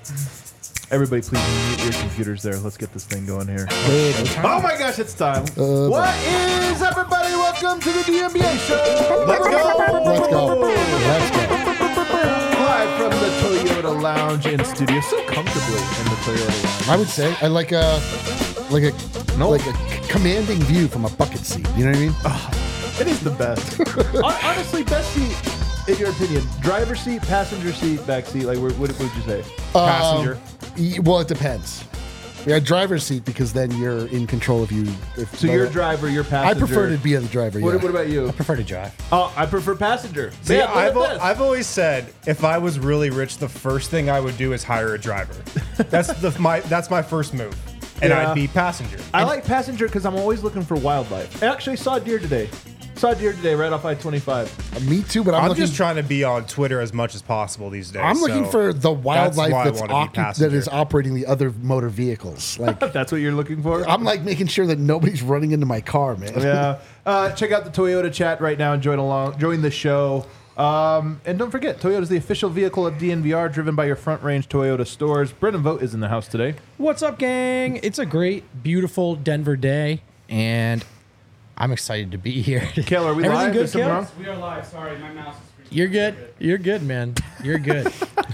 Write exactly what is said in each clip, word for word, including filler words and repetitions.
Everybody, please mute your computers there. Let's get this thing going here. Uh, Oh my gosh, it's time. Uh, what is everybody? Welcome to the D M B A show. Let's go. Let's go. Let's go. Live from the Toyota Lounge in studio, so comfortably in the Toyota Lounge. I would say I like a like a Nope. like a commanding view from a bucket seat. You know what I mean? Oh, it is the best. Hon- Honestly, best seat in your opinion: driver seat, passenger seat, back seat. Like, what, what would you say? Passenger. Um, y- well, it depends. Yeah, driver's seat because then you're in control of you. If So you're driver, you're I passenger. prefer to be the driver. What, yeah. what about you? I prefer to drive. Oh, I prefer passenger. See, Man, look I've, at al- this. I've always said if I was really rich, the first thing I would do is hire a driver. That's the my that's my first move, and Yeah. I'd be passenger. I like passenger because I'm always looking for wildlife. I actually saw a deer today. Saw a deer today right off I twenty-five. Uh, Me too, but I'm, I'm looking. just trying to be on Twitter as much as possible these days. I'm looking so for the wildlife why I that's wanna be occup- that passenger. is operating the other motor vehicles. Like That's what you're looking for? I'm like making sure that nobody's running into my car, man. Yeah. Uh, check out the Toyota chat right now and join along, join the show. Um, and don't forget, Toyota is the official vehicle of D N V R, driven by your Front Range Toyota stores. Brendan Vogt is in the house today. What's up, gang? It's a great, beautiful Denver day, and I'm excited to be here. Kale, are we Everything live? good, Is something Kale? wrong? We are live. Sorry, my mouse is freaking. You're good. You're good, man. You're good.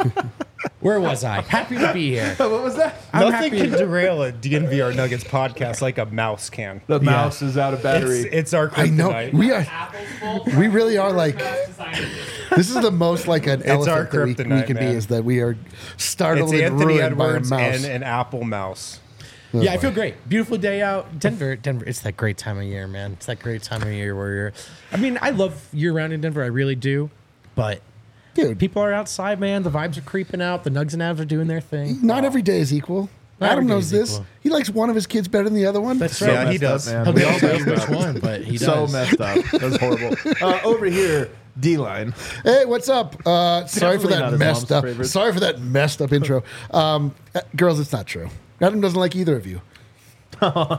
Where was I? Happy to be here. What was that? I'm Nothing happy. can derail a D N V R Nuggets podcast like a mouse can. The mouse is out of battery. It's, it's our I know kryptonite. we are. Apple's full. We really are like. Designer. This is the most like an our elephant that we, we kryptonite, can be. man. Is that we are startled It's and Anthony ruined by a Edwards mouse. and an Apple mouse. Yeah, I feel great. Beautiful day out. Denver, Denver. It's that great time of year, man. It's that great time of year where you're. I mean, I love year round in Denver. I really do. But Dude, people are outside, man. The vibes are creeping out. The Nugs and Avs are doing their thing. not every day is equal. Not Adam every day knows is this. equal. He likes one of his kids better than the other one. That's So right. Yeah, he messed up, does. man. He'll We be all able to messed which up. one, but he So does. messed up. That's horrible. Uh, over here, D-line. Hey, what's up? Uh, sorry for Definitely not that his messed mom's up. favorite. Sorry for that messed up intro. Um, uh, girls, it's not true. Adam doesn't like either of you. Over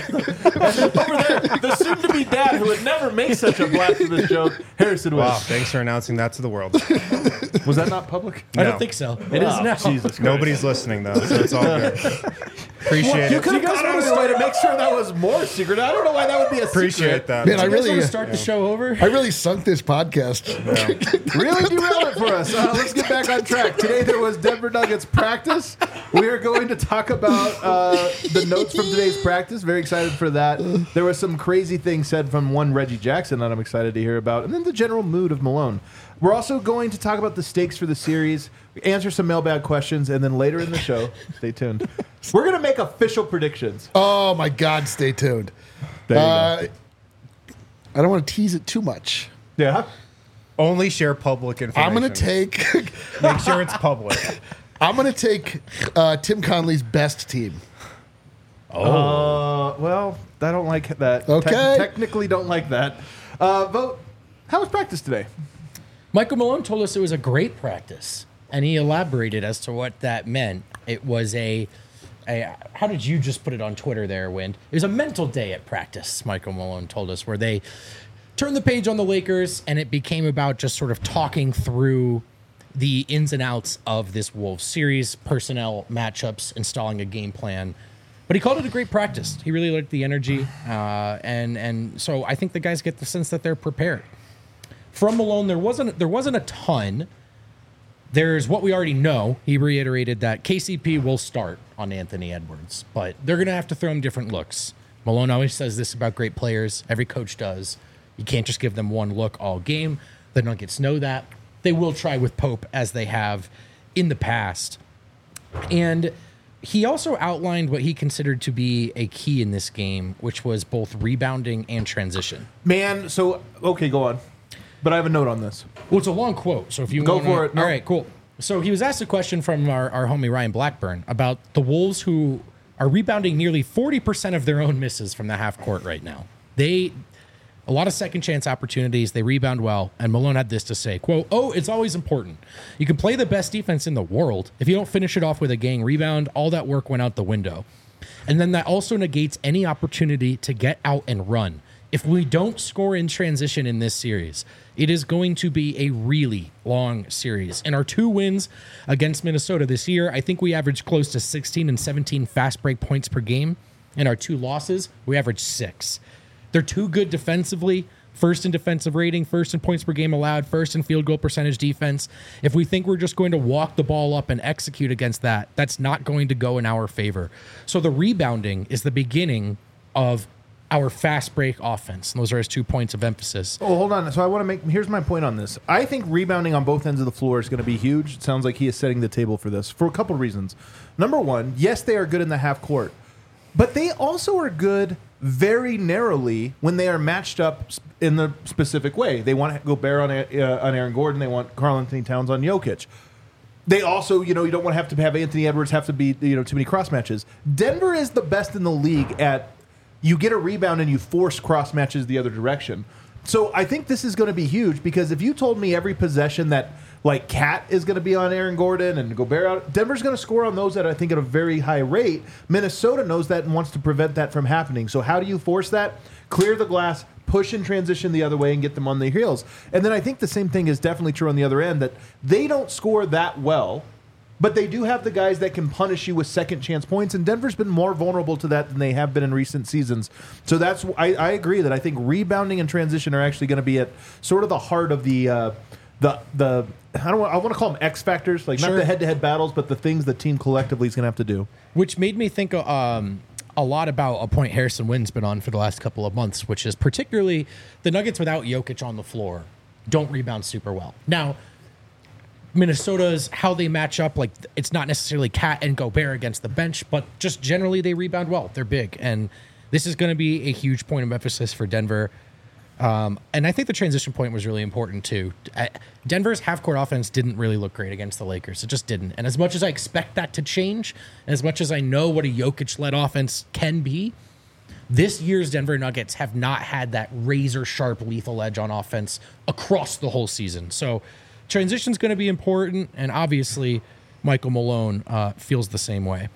there, the soon-to-be dad who would never make such a blasphemous joke, Harrison Wow, West. thanks for announcing that to the world. Was that not public? I No. don't think so. It is Oh, now. Jesus Christ. Nobody's listening though, so it's all good. Appreciate You it. could have gone out of your way to make sure that was more secret. I don't know why that would be a Appreciate secret. that. Man, I You guys really, want to start the show over? I really sunk this podcast. Really derailed it for us. Uh, let's get back on track. Today there was Denver Nuggets practice. We are going to talk about uh, the notes from today's practice. Very excited for that. There was some crazy things said from one Reggie Jackson that I'm excited to hear about, and then the general mood of Malone. We're also going to talk about the stakes for the series, answer some mailbag questions, and then later in the show, stay tuned. We're going to make official predictions. Oh my God! Stay tuned. There you Uh, I don't want to tease it too much. go. Yeah. Only share public information. I'm gonna take. Make sure it's public. I'm gonna take uh, Tim Conley's best team. Uh, well, I don't like that. Te- Okay. technically, don't like that. Uh, vote. How was practice today? Michael Malone told us it was a great practice, and he elaborated as to what that meant. It was a, a how did you just put it on Twitter there, Wind? It was a mental day at practice, Michael Malone told us, where they turned the page on the Lakers, and it became about just sort of talking through the ins and outs of this Wolves series, personnel matchups, installing a game plan. But he called it a great practice. He really liked the energy, uh, and and so I think the guys get the sense that they're prepared. From Malone, there wasn't there wasn't a ton. There's what we already know. He reiterated that K C P will start on Anthony Edwards, but they're going to have to throw him different looks. Malone always says this about great players. Every coach does. You can't just give them one look all game. The Nuggets know that. They will try with Pope as they have in the past. And he also outlined what he considered to be a key in this game, which was both rebounding and transition. Man, so, okay, go on. But I have a note on this. Well, it's a long quote, so if you Go wanna, for it. No. All right, cool. So he was asked a question from our, our homie Ryan Blackburn about the Wolves, who are rebounding nearly forty percent of their own misses from the half court right now. They, a lot of second chance opportunities, they rebound well, and Malone had this to say, quote, "Oh, it's always important. You can play the best defense in the world. If you don't finish it off with a gang rebound, all that work went out the window. And then that also negates any opportunity to get out and run. If we don't score in transition in this series, it is going to be a really long series. In our two wins against Minnesota this year, I think we averaged close to sixteen and seventeen fast break points per game. In our two losses, we averaged six. They're too good defensively. First in defensive rating, first in points per game allowed, first in field goal percentage defense. If we think we're just going to walk the ball up and execute against that, that's not going to go in our favor. So the rebounding is the beginning of our fast break offense. And those are his two points of emphasis. Oh, hold on. So I want to make, here's my point on this. I think rebounding on both ends of the floor is going to be huge. It sounds like he is setting the table for this for a couple of reasons. Number one, yes, they are good in the half court, but they also are good very narrowly when they are matched up in the specific way. They want Gobert on, uh, on Aaron Gordon. They want Karl-Anthony Towns on Jokic. They also, you know, you don't want to have to have Anthony Edwards have to be, you know, too many cross matches. Denver is the best in the league at you get a rebound and you force cross matches the other direction. So I think this is going to be huge because if you told me every possession that like Cat is going to be on Aaron Gordon and Gobert out, Denver's going to score on those at I think at a very high rate. Minnesota knows that and wants to prevent that from happening. So how do you force that? Clear the glass, push and transition the other way and get them on their heels. And then I think the same thing is definitely true on the other end that they don't score that well. But they do have the guys that can punish you with second chance points, and Denver's been more vulnerable to that than they have been in recent seasons. So that's I, I agree that I think rebounding and transition are actually going to be at sort of the heart of the uh, the the I don't want, I want to call them X factors, like Sure. not the head to head battles, but the things the team collectively is going to have to do. Which made me think um, a lot about a point Harrison Wynn's been on for the last couple of months, which is particularly the Nuggets without Jokic on the floor don't rebound super well. Now, Minnesota's how they match up, like it's not necessarily Cat and Gobert against the bench, but just generally they rebound well. They're big, and this is going to be a huge point of emphasis for Denver. Um, and I think the transition point was really important too. Uh, Denver's half-court offense didn't really look great against the Lakers. It just didn't. And as much as I expect that to change, and as much as I know what a Jokic-led offense can be, this year's Denver Nuggets have not had that razor-sharp lethal edge on offense across the whole season. So transition's going to be important, and obviously Michael Malone uh, feels the same way.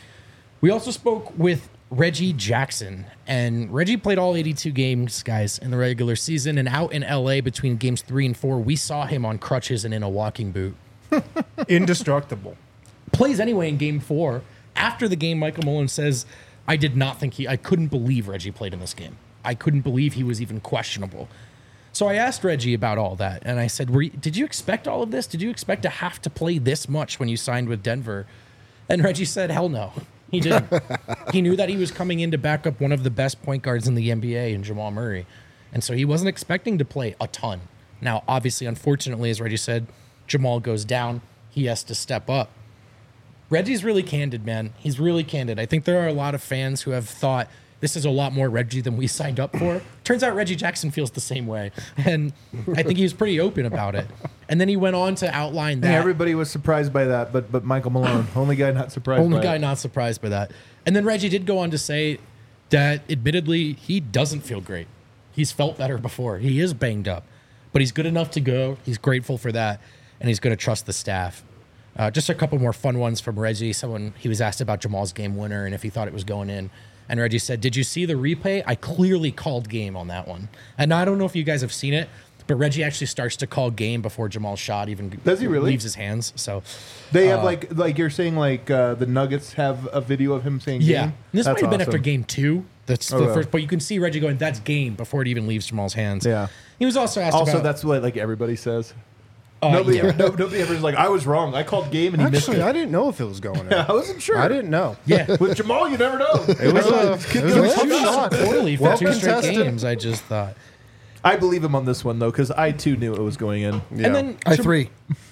We also spoke with Reggie Jackson, and Reggie played all eighty-two games, guys, in the regular season, and out in L A between games three and four, we saw him on crutches and in a walking boot. Indestructible. Plays anyway in game four. After the game, Michael Malone says, I did not think he, I couldn't believe Reggie played in this game. I couldn't believe he was even questionable. So I asked Reggie about all that, and I said, Were you, did you expect all of this? Did you expect to have to play this much when you signed with Denver? And Reggie said, hell no. He didn't. He knew that he was coming in to back up one of the best point guards in the N B A in Jamal Murray. And so he wasn't expecting to play a ton. Now, obviously, unfortunately, as Reggie said, Jamal goes down. He has to step up. Reggie's really candid, man. He's really candid. I think there are a lot of fans who have thought this is a lot more Reggie than we signed up for. Turns out Reggie Jackson feels the same way. And I think he was pretty open about it. And then he went on to outline that. And everybody was surprised by that, but but Michael Malone, only guy not surprised Only by guy it. not surprised by that. And then Reggie did go on to say that admittedly he doesn't feel great. He's felt better before. He is banged up, but he's good enough to go. He's grateful for that, and he's going to trust the staff. Uh, just a couple more fun ones from Reggie. Someone, he was asked about Jamal's game winner and if he thought it was going in. And Reggie said, did you see the replay? I clearly called game on that one. And I don't know if you guys have seen it, but Reggie actually starts to call game before Jamal's shot even Does he really? leaves his hands. So They have uh, like like you're saying like uh, the Nuggets have a video of him saying yeah. game? And this That's might have been awesome. after game two. That's Oh, the yeah. first, but you can see Reggie going, that's game before it even leaves Jamal's hands. Yeah. He was also asked Also, about. that's what like everybody says. uh, nobody, yeah. ever, no, nobody ever is like, I was wrong. I called game and he Actually, missed I it. didn't know if it was going in. I wasn't sure. I didn't know. Yeah. With Jamal, you never know. It was a, it was He a was tough shooting shot. so poorly for Well two straight contested. games, I just thought. I believe him on this one though, because I too knew it was going in. Yeah. And then I Jam- three.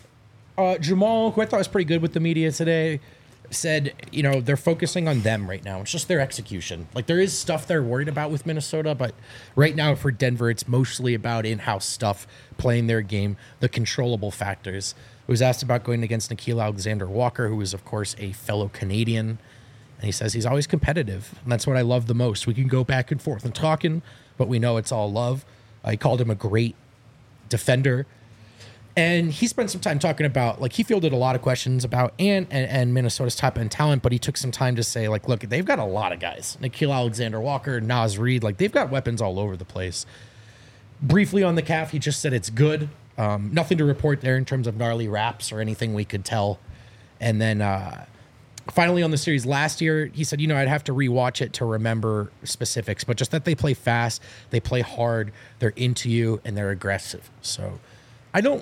Uh, Jamal, who I thought was pretty good with the media today, said, you know, they're focusing on them right now. It's just their execution. Like, there is stuff they're worried about with Minnesota, but right now for Denver, it's mostly about in-house stuff, playing their game, the controllable factors. He was asked about going against Nikhil Alexander-Walker, who is, of course, a fellow Canadian. And he says he's always competitive, and that's what I love the most. We can go back and forth and talking, but we know it's all love. Uh, he called him a great defender. And he spent some time talking about, like, he fielded a lot of questions about Ant and, and Minnesota's top end talent, but he took some time to say, like, look, they've got a lot of guys. Nikhil Alexander-Walker, Naz Reid, like, they've got weapons all over the place. Briefly on the calf, he just said it's good. Um, nothing to report there in terms of gnarly wraps or anything we could tell. And then uh, finally on the series last year, he said, you know, I'd have to rewatch it to remember specifics, but just that they play fast, they play hard, they're into you, and they're aggressive. So I don't...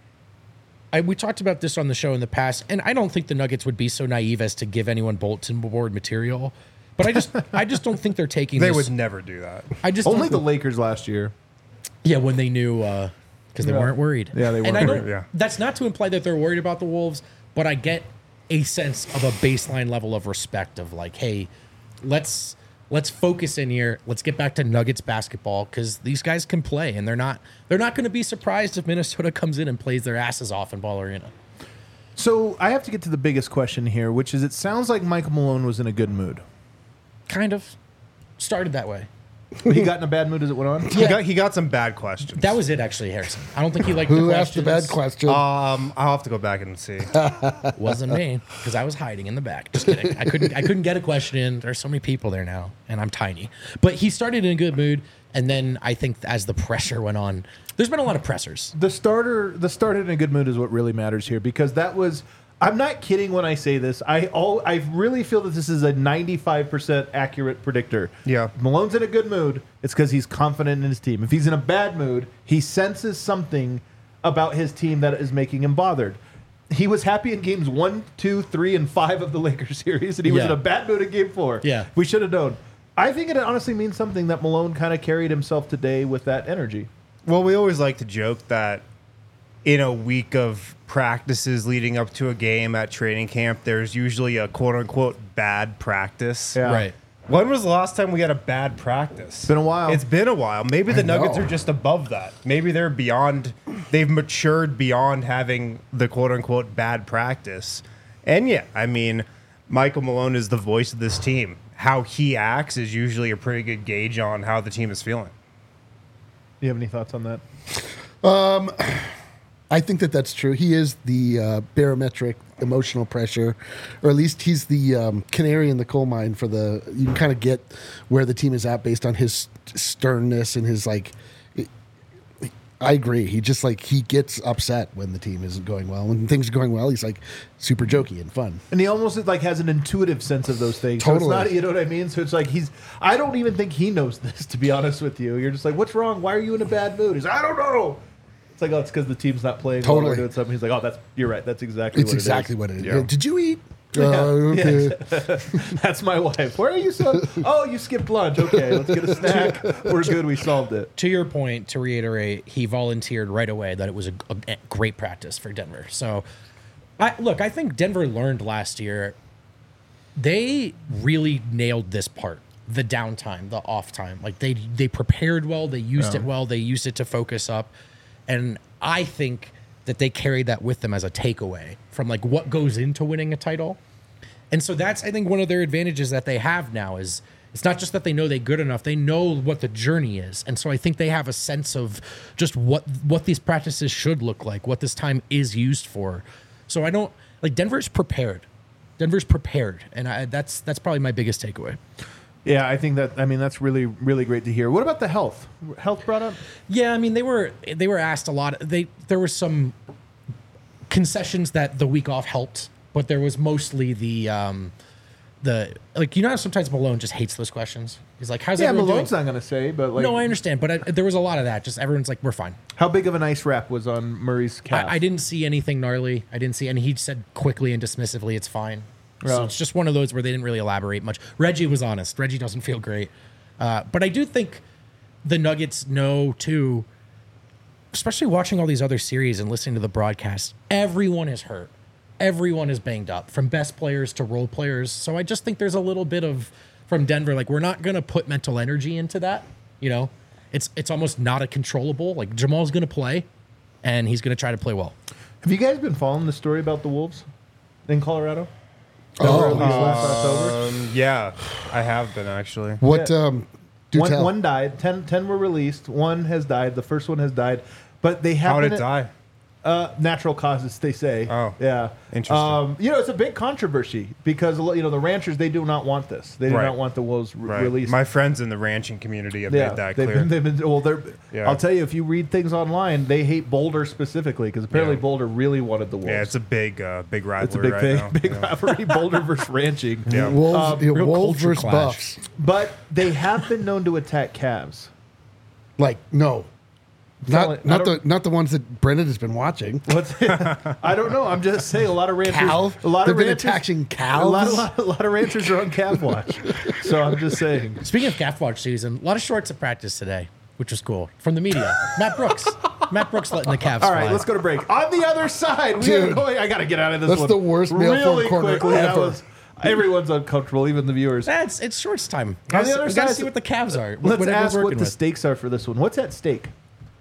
I, we talked about this on the show in the past, and I don't think the Nuggets would be so naive as to give anyone bulletin board material. But I just, I just don't think they're taking. They this. would never do that. I just Only don't- the Lakers last year. yeah, when they knew, because they Yeah. weren't worried. Yeah, they And weren't I don't, worried, yeah. That's not to imply that they're worried about the Wolves, but I get a sense of a baseline level of respect of like, hey, let's let's focus in here. Let's get back to Nuggets basketball because these guys can play, and they're not they're not going to be surprised if Minnesota comes in and plays their asses off in Ball Arena. So I have to get to the biggest question here, which is it sounds like Michael Malone was in a good mood. Kind of started that way. But he got in a bad mood as it went on? He got he got some bad questions. That was it, actually, Harrison. I don't think he liked Who the asked the questions. bad question? Um, I'll have to go back and see. Wasn't me because I was hiding in the back. Just kidding. I couldn't. I couldn't get a question in. There's so many people there now, and I'm tiny. But he started in a good mood, and then I think as the pressure went on, there's been a lot of pressers. The starter, the starter in a good mood is what really matters here because that was. I'm not kidding when I say this. I all I really feel that this is a ninety-five percent accurate predictor. Yeah. If Malone's in a good mood, it's because he's confident in his team. If he's in a bad mood, he senses something about his team that is making him bothered. He was happy in games one, two, three, and five of the Lakers series, and he was Yeah. in a bad mood in game four. Yeah. We should have known. I think it honestly means something that Malone kind of carried himself today with that energy. Well, we always like to joke that in a week of practices leading up to a game at training camp, there's usually a quote unquote bad practice. Yeah. Right. When was the last time we had a bad practice? It's been a while. It's been a while. Maybe the I Nuggets know. are just above that. Maybe they're beyond, they've matured beyond having the quote unquote bad practice. And yeah, I mean, Michael Malone is the voice of this team. How he acts is usually a pretty good gauge on how the team is feeling. Do you have any thoughts on that? I think that that's true. He is the uh, barometric emotional pressure, or at least he's the um, canary in the coal mine for the. You can kind of get where the team is at based on his sternness and his like. I agree. He just like he gets upset when the team isn't going well. When things are going well, he's like super jokey and fun. And he almost like has an intuitive sense of those things. Totally. So it's not, you know what I mean? So it's like he's. I don't even think he knows this, to be honest with you. You're just like, what's wrong? Why are you in a bad mood? He's, I don't know. It's like, oh, it's because the team's not playing. Well, Totally. we're doing something. He's like, oh, that's you're right. That's exactly. It's what exactly it is. what it is. Yeah. Did you eat? Yeah. Uh, okay. That's my wife. Where are you, son? Oh, you skipped lunch. Okay, let's get a snack. We're good. We solved it. To your point, to reiterate, he volunteered right away that it was a, a great practice for Denver. So, I, look, I think Denver learned last year. They really nailed this part, the downtime, the off time. Like they they prepared well, they used Yeah. it well, they used it to focus up, and I think that they carried that with them as a takeaway from like what goes into winning a title. And so that's, I think, one of their advantages that they have now is it's not just that they know they're good enough, they know what the journey is. And so I think they have a sense of just what what these practices should look like, what this time is used for. So I don't, like Denver's prepared. Denver's prepared. And I, that's that's probably my biggest takeaway. Yeah, I think that. I mean, that's really, really great to hear. What about the health? Health brought up. Yeah, I mean they were they were asked a lot. They there were some concessions that the week off helped, but there was mostly the um, the like you know how sometimes Malone just hates those questions. He's like, "How's Yeah, everyone Malone's doing?" not going to say, but like, No, I understand, but I, there was a lot of that. Just everyone's like, "We're fine." how big of an ice wrap was on Murray's calf? I, I didn't see anything gnarly. I didn't see, and he said quickly and dismissively, "It's fine." So Yeah. it's just one of those where they didn't really elaborate much. Reggie was honest. Reggie doesn't feel great, uh, but I do think the Nuggets know too. Especially watching all these other series and listening to the broadcast, everyone is hurt. Everyone is banged up, from best players to role players. So I just think there's a little bit of from Denver, like we're not going to put mental energy into that. You know, it's it's almost not a controllable. Like Jamal's going to play, and he's going to try to play well. Have you guys been following the story about the Wolves in Colorado? That Oh. were released last October. Um, yeah, I have been actually. What? Um, do One, tell. one died. Ten, ten were released. One has died. The first one has died. But they How haven't. did it die? Uh, natural causes, they say. Oh, yeah, interesting. Um, you know, it's a big controversy because you know the ranchers, they do not want this. They do Right. not want the wolves re- Right. released. My friends in the ranching community have yeah, made that they've clear. been, they've been, well, they're. Yeah. I'll tell you, if you read things online, they hate Boulder specifically because apparently Yeah. Boulder really wanted the wolves. yeah, it's a big, uh, big rivalry It's a big right thing, now. big Yeah. rivalry, Boulder versus ranching. Yeah. Wolves, Um, yeah, real wolves culture versus clash. buffs. But they have been known to attack calves. Like no, Telling- not I not don't- the not the ones that Brendan has been watching. What's, I don't know. I'm just saying a lot of ranchers. Cow? A lot They've of been ranchers, attaching A lot, a, cows? lot, a lot of ranchers are on calf watch. So I'm just saying. Speaking of calf watch season, a lot of shorts at practice today, which was cool. From the media, Matt Brooks. Matt Brooks letting the calves All right, fly. let's go to break. On the other side, we Dude, are going. I got to get out of this that's one. the worst mail really phone corner quickly. That ever. was- everyone's uncomfortable, even the viewers. That's it's shorts time. On Guys, the other we gotta side, see what the calves are. Let's what we're ask what working the with. stakes are for this one. What's at stake?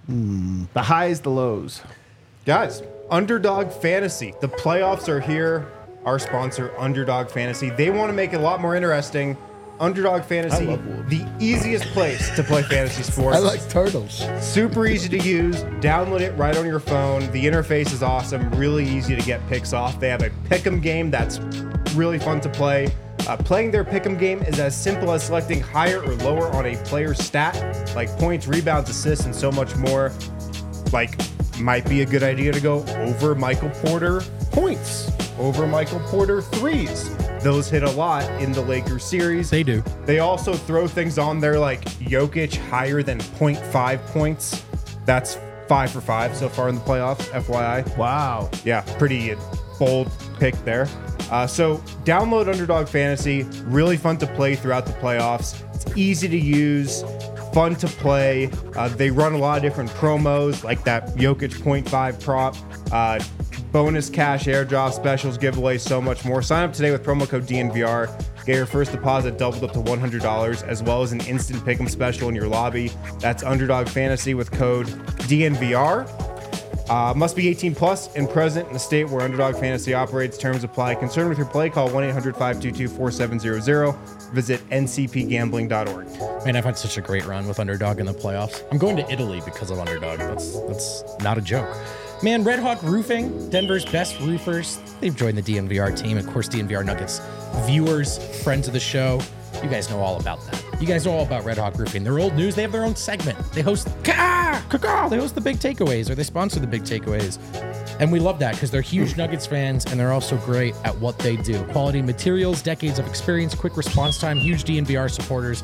The highs, the lows. Guys, Underdog Fantasy. The playoffs are here. Our sponsor, Underdog Fantasy. They want to make it a lot more interesting. Underdog Fantasy, the easiest place to play fantasy sports. I like turtles. Super easy to use. Download it right on your phone. The interface is awesome. Really easy to get picks off. They have a pick'em game that's really fun to play. Uh, playing their pick'em game is as simple as selecting higher or lower on a player's stat, like points, rebounds, assists, and so much more. Like, might be a good idea to go over Michael Porter points, over Michael Porter threes. Those hit a lot in the Lakers series. They do. They also throw things on there like Jokic higher than zero point five points. That's five for five so far in the playoffs, F Y I. Wow. Yeah, pretty bold pick there. Uh, so download Underdog Fantasy. Really fun to play throughout the playoffs. It's easy to use, fun to play. Uh, they run a lot of different promos like that Jokic zero point five prop. Uh, bonus cash airdrop specials, giveaways, so much more. Sign up today with promo code D N V R. Get your first deposit doubled up to one hundred dollars, as well as an instant pick'em special in your lobby. That's Underdog Fantasy with code D N V R. Uh, must be eighteen plus and present in the state where Underdog Fantasy operates. Terms apply. Concerned with your play, call one eight hundred five two two four seven zero zero. Visit N C P gambling dot org. Man, I've had such a great run with Underdog in the playoffs. I'm going to Italy because of Underdog. That's that's not a joke. Man, Red Hawk Roofing, Denver's best roofers. They've joined the D N V R team. Of course, D N V R Nuggets viewers, friends of the show. You guys know all about that. You guys know all about Red Hawk Roofing. They're old news. They have their own segment. They host Ka! Ka! They host the Big Takeaways, or they sponsor the Big Takeaways. And we love that because they're huge Nuggets fans and they're also great at what they do. Quality materials, decades of experience, quick response time, huge D N V R supporters.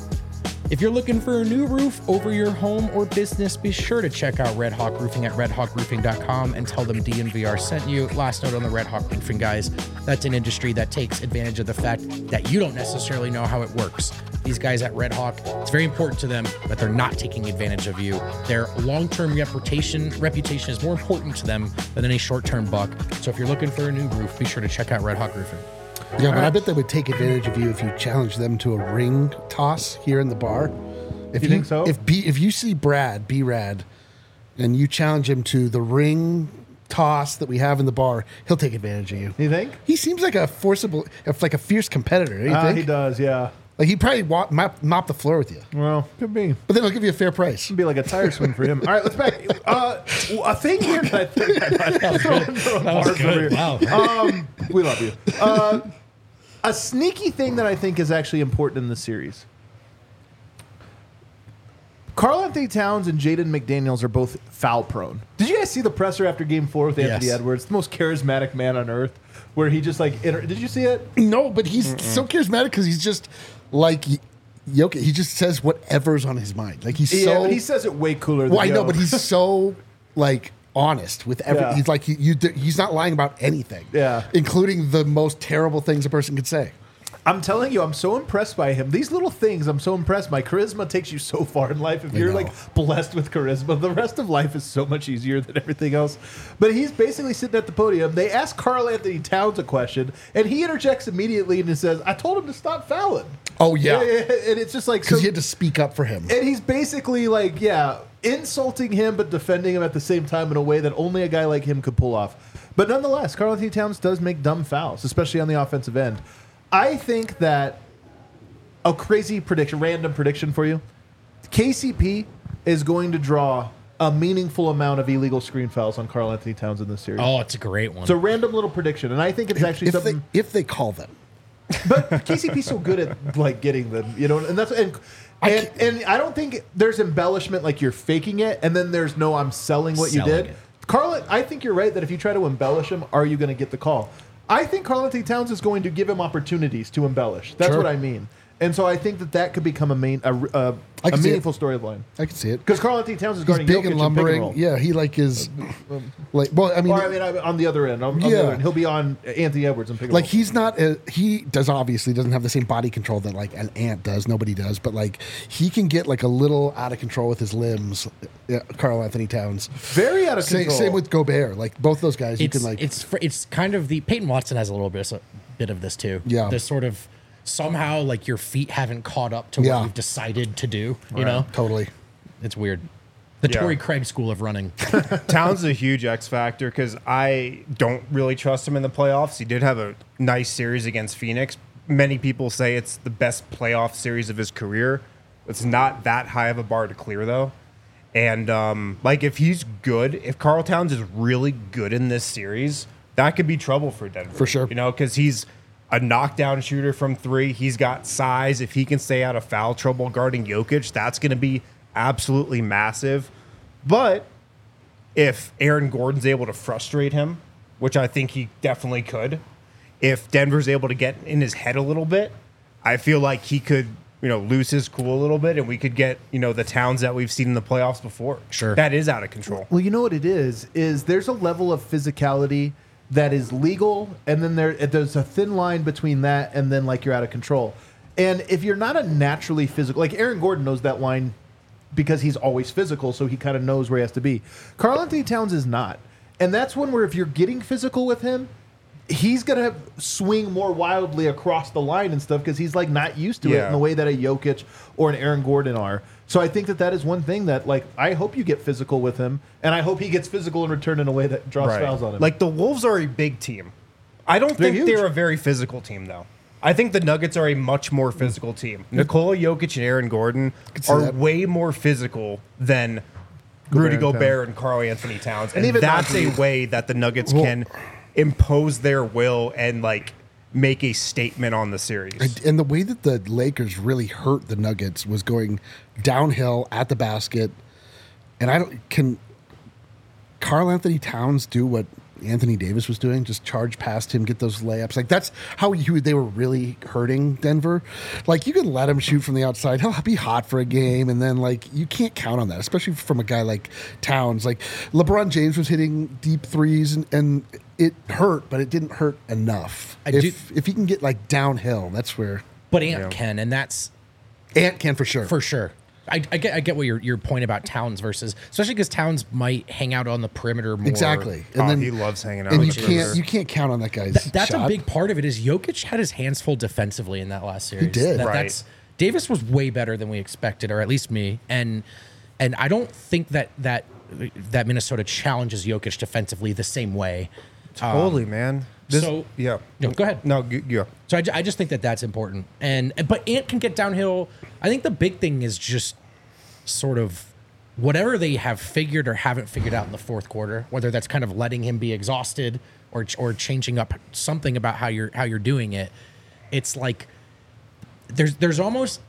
If you're looking for a new roof over your home or business, be sure to check out Red Hawk Roofing at red hawk roofing dot com and tell them D N V R sent you. Last note on the Red Hawk Roofing, guys. That's an industry that takes advantage of the fact that you don't necessarily know how it works. These guys at Red Hawk, it's very important to them that they're not taking advantage of you. Their long-term reputation reputation is more important to them than any short-term buck. So if you're looking for a new roof, be sure to check out Red Hawk Roofing. Yeah, but I bet they would take advantage of you if you challenge them to a ring toss here in the bar. If You think so? If B, if you see Brad, B Rad, and you challenge him to the ring toss that we have in the bar, he'll take advantage of you. You think? He seems like a forcible, like a fierce competitor. Don't you Uh, think? he does, yeah. Like he'd probably walk, mop, mop the floor with you, Well, could be. but then he'll give you a fair price. It'd be like a tire swing for him. All right, let's back. Uh, a thing here that I think that was good. That was good. Wow. Um, we love you. Uh, a sneaky thing that I think is actually important in the series. Karl Anthony Towns and Jaden McDaniels are both foul prone. Did you guys see the presser after Game Four with Anthony Yes. Edwards, the most charismatic man on earth, where he just like inter- did you see it? No, but he's so charismatic because he's just like Jokic. He just says whatever's on his mind. Like he's Yeah, so. but he says it way cooler. Than well, I know, Yo. but he's so like honest with every. Yeah. He's like he, you. d- He's not lying about anything. Yeah. including the most terrible things a person could say. I'm telling you, I'm so impressed by him. These little things, I'm so impressed. My charisma takes you so far in life. If you're know. like blessed with charisma, the rest of life is so much easier than everything else. But he's basically sitting at the podium. They ask Karl Anthony Towns a question, and he interjects immediately and he says, "I told him to stop fouling." Oh yeah, yeah, and it's just like because so, he had to speak up for him. and he's basically like, yeah, insulting him but defending him at the same time in a way that only a guy like him could pull off. But nonetheless, Karl Anthony Towns does make dumb fouls, especially on the offensive end. I think that a crazy prediction, random prediction for you. K C P is going to draw a meaningful amount of illegal screen fouls on Karl Anthony Towns in this series. Oh, it's a great one. It's a random little prediction, and I think it's actually if something. they if they call them. But K C P's so good at like getting them, you know, and that's and and, and I don't think there's embellishment like you're faking it, and then there's no I'm selling what Selling you did. it. Carl, I think you're right that if you try to embellish him, are you going to get the call? I think Karl Anthony Towns is going to give him opportunities to embellish. That's Sure. what I mean. And so I think that that could become a main a, a, I a can see it. meaningful storyline. I can see it. Because Karl Anthony Towns is He's guarding big Jokic and in pick and lumbering. roll. Yeah, he like is like. Well, I mean, Or I mean, I- on the other end, on, on the Yeah. other end, he'll be on Anthony Edwards and pick and like roll. he's not. A, he does obviously doesn't have the same body control that like an ant does. Nobody does, but like he can get like a little out of control with his limbs. Yeah, Karl Anthony Towns. very out of Same, control. same with Gobert. Like both those guys, you it's can like. it's fr- it's kind of the Peyton Watson has a little bit of, bit of this too. Yeah. This sort of somehow like your feet haven't caught up to Yeah. what you've decided to do. You know, Totally. it's weird. The Yeah. Torrey Craig school of running. Towns is a huge X factor because I don't really trust him in the playoffs. He did have a nice series against Phoenix. Many people say it's the best playoff series of his career. It's not that high of a bar to clear, though. And, um, like, if he's good, if Karl Towns is really good in this series, that could be trouble for Denver. For sure. You know, because he's a knockdown shooter from three. He's got size. If he can stay out of foul trouble guarding Jokic, that's going to be absolutely massive. But if Aaron Gordon's able to frustrate him, which I think he definitely could, if Denver's able to get in his head a little bit, I feel like he could, you know, lose his cool a little bit, and we could get, you know, the Towns that we've seen in the playoffs before. Sure. That is out of control. Well, you know what it is? Is there's a level of physicality that is legal, and then there there's a thin line between that and then like you're out of control. And if you're not a naturally physical, like Aaron Gordon knows that line because he's always physical, so he kind of knows where he has to be. Karl Anthony Towns is not, and that's one where if you're getting physical with him, he's gonna swing more wildly across the line and stuff because he's like not used to it Yeah. in the way that a Jokic or an Aaron Gordon are. So I think that that is one thing that like I hope you get physical with him, and I hope he gets physical in return in a way that draws fouls on him. Like the Wolves are a big team. I don't They're think huge. they're a very physical team, though. I think the Nuggets are a much more physical team. Nikola Jokic and Aaron Gordon see are that. way more physical than Rudy and Gobert and Karl Anthony Towns. And, even that's Monty. a way that the Nuggets Well- can impose their will and like make a statement on the series. And the way that the Lakers really hurt the Nuggets was going downhill at the basket. And I don't can Karl Anthony Towns do what Anthony Davis was doing, just charge past him, get those layups. Like that's how you they were really hurting Denver. Like you can let him shoot from the outside. He'll be hot for a game, and then like you can't count on that, especially from a guy like Towns. Like LeBron James was hitting deep threes, and, and it hurt, but it didn't hurt enough. I if do- if he can get like downhill, that's where But Ant can, and that's Ant can for sure. for sure. I, I get I get what your your point about Towns versus, especially because Towns might hang out on the perimeter more. Exactly. Oh, And then he loves hanging out. and on you the can't perimeter. you can't count on that guy's Th- that's shot. a big part of it. Is Jokic had his hands full defensively in that last series. did. That- Right. That's Davis was way better than we expected, or at least me. And and I don't think that that that Minnesota challenges Jokic defensively the same way. Totally, man. This- so- yeah. No, go ahead. No, g- yeah. So I, ju- I just think that that's important. And but Ant can get downhill. I think the big thing is just sort of whatever they have figured or haven't figured out in the fourth quarter, whether that's kind of letting him be exhausted or or changing up something about how you're how you're doing it. It's like there's there's almost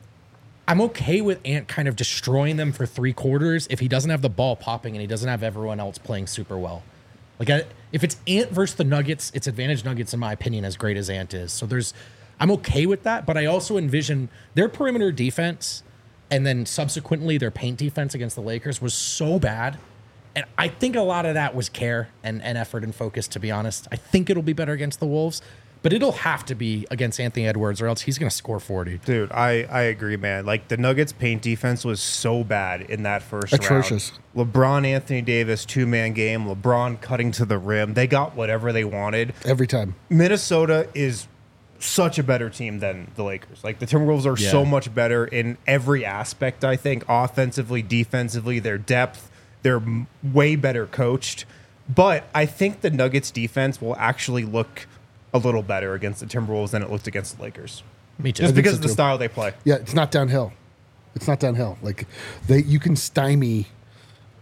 I'm okay with Ant kind of destroying them for three quarters if he doesn't have the ball popping and he doesn't have everyone else playing super well. Like I, if it's Ant versus the Nuggets, it's advantage Nuggets in my opinion, as great as Ant is. So there's, I'm okay with that, but I also envision their perimeter defense and then subsequently their paint defense against the Lakers was so bad. And I think a lot of that was care and, and effort and focus, to be honest. I think it'll be better against the Wolves, but it'll have to be against Anthony Edwards or else he's going to score forty. Dude, I, I agree, man. Like, the Nuggets' paint defense was so bad in that first Atrocious. round. LeBron, Anthony Davis, two-man game. LeBron cutting to the rim. They got whatever they wanted. every time. Minnesota is such a better team than the Lakers. Like, the Timberwolves are Yeah. so much better in every aspect, I think. Offensively, defensively, their depth. They're m- way better coached. But I think the Nuggets' defense will actually look a little better against the Timberwolves than it looked against the Lakers. Me too. Just think because so of the too. style they play. Yeah, it's not downhill. It's not downhill. Like they, you can stymie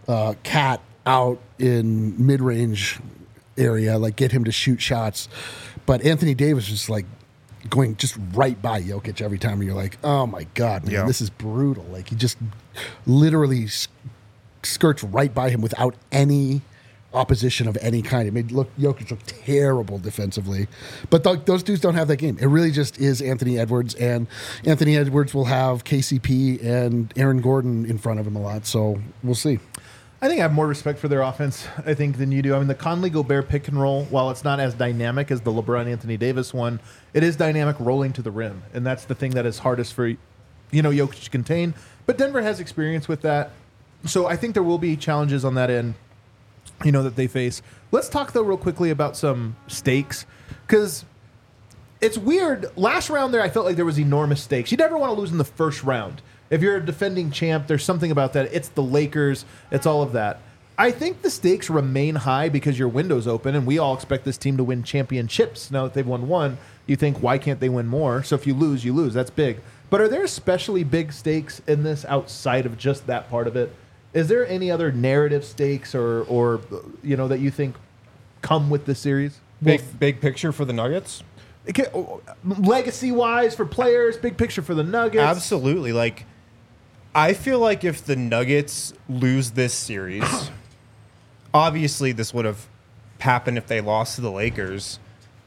uh, Cat out in mid range area, like get him to shoot shots. But Anthony Davis was like going just right by Jokic every time. And you're like, oh my God, man, Yeah. this is brutal. Like he just literally s- skirts right by him without any opposition of any kind. It made look Jokic look terrible defensively. But th- those dudes don't have that game. It really just is Anthony Edwards, and Anthony Edwards will have K C P and Aaron Gordon in front of him a lot. So we'll see. I think I have more respect for their offense, I think, than you do. I mean, the Conley Gobert pick and roll, while it's not as dynamic as the LeBron Anthony Davis one, it is dynamic rolling to the rim. And that's the thing that is hardest for, you know, Jokic to contain. But Denver has experience with that. So I think there will be challenges on that end, you know, that they face. Let's talk, though, real quickly about some stakes. Because it's weird. Last round there, I felt like there was enormous stakes. You never want to lose in the first round. If you're a defending champ, there's something about that. It's the Lakers. It's all of that. I think the stakes remain high because your window's open, and we all expect this team to win championships. Now that they've won one, you think, why can't they win more? So if you lose, you lose. That's big. But are there especially big stakes in this outside of just that part of it? Is there any other narrative stakes or, or you know, that you think come with this series? Big big picture for the Nuggets. Legacy wise for players, big picture for the Nuggets. Absolutely. Like, I feel like if the Nuggets lose this series, obviously this would have happened if they lost to the Lakers.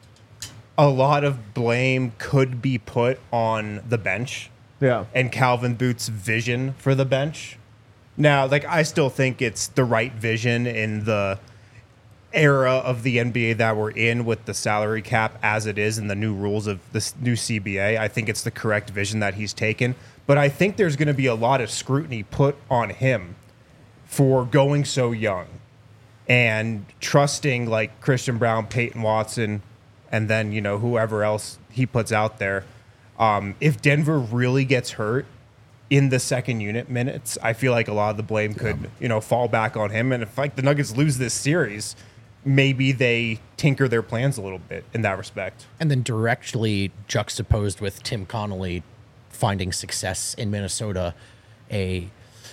A lot of blame could be put on the bench Yeah. and Calvin Booth's vision for the bench. Now, like, I still think it's the right vision in the era of the N B A that we're in with the salary cap as it is and the new rules of this new C B A. I think it's the correct vision that he's taken. But I think there's going to be a lot of scrutiny put on him for going so young and trusting like Christian Brown, Peyton Watson, and then, you know, whoever else he puts out there. Um, if Denver really gets hurt in the second unit minutes, I feel like a lot of the blame could, you know, fall back on him. And if like the Nuggets lose this series, maybe they tinker their plans a little bit in that respect. And then directly juxtaposed with Tim Connolly finding success in Minnesota, a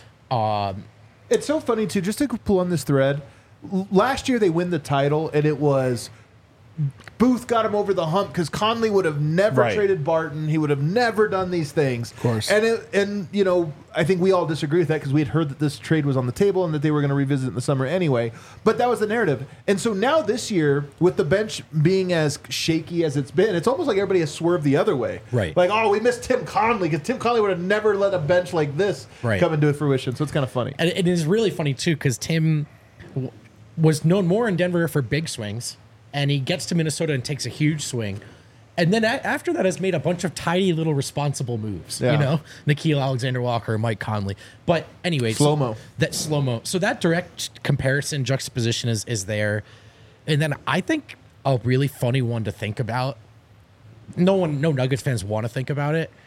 It's so funny, too, just to pull on this thread. L- Last year they win the title, and it was Booth got him over the hump because Conley would have never Right. traded Barton. He would have never done these things. Of course. And, it, and you know, I think we all disagree with that because we had heard that this trade was on the table and that they were going to revisit it in the summer anyway. But that was the narrative. And so now this year, with the bench being as shaky as it's been, it's almost like everybody has swerved the other way. Right. Like, oh, we missed Tim Conley because Tim Conley would have never let a bench like this Right. come into fruition. So it's kind of funny. And it is really funny, too, because Tim w- was known more in Denver for big swings, and he gets to Minnesota and takes a huge swing. And then a- after that has made a bunch of tiny little responsible moves, Yeah. you know, Nikhil Alexander-Walker, Mike Conley. But anyway, so Slow-mo. that slow-mo. So that direct comparison, juxtaposition is, is there. And then I think a really funny one to think about, no one, no Nuggets fans want to think about it.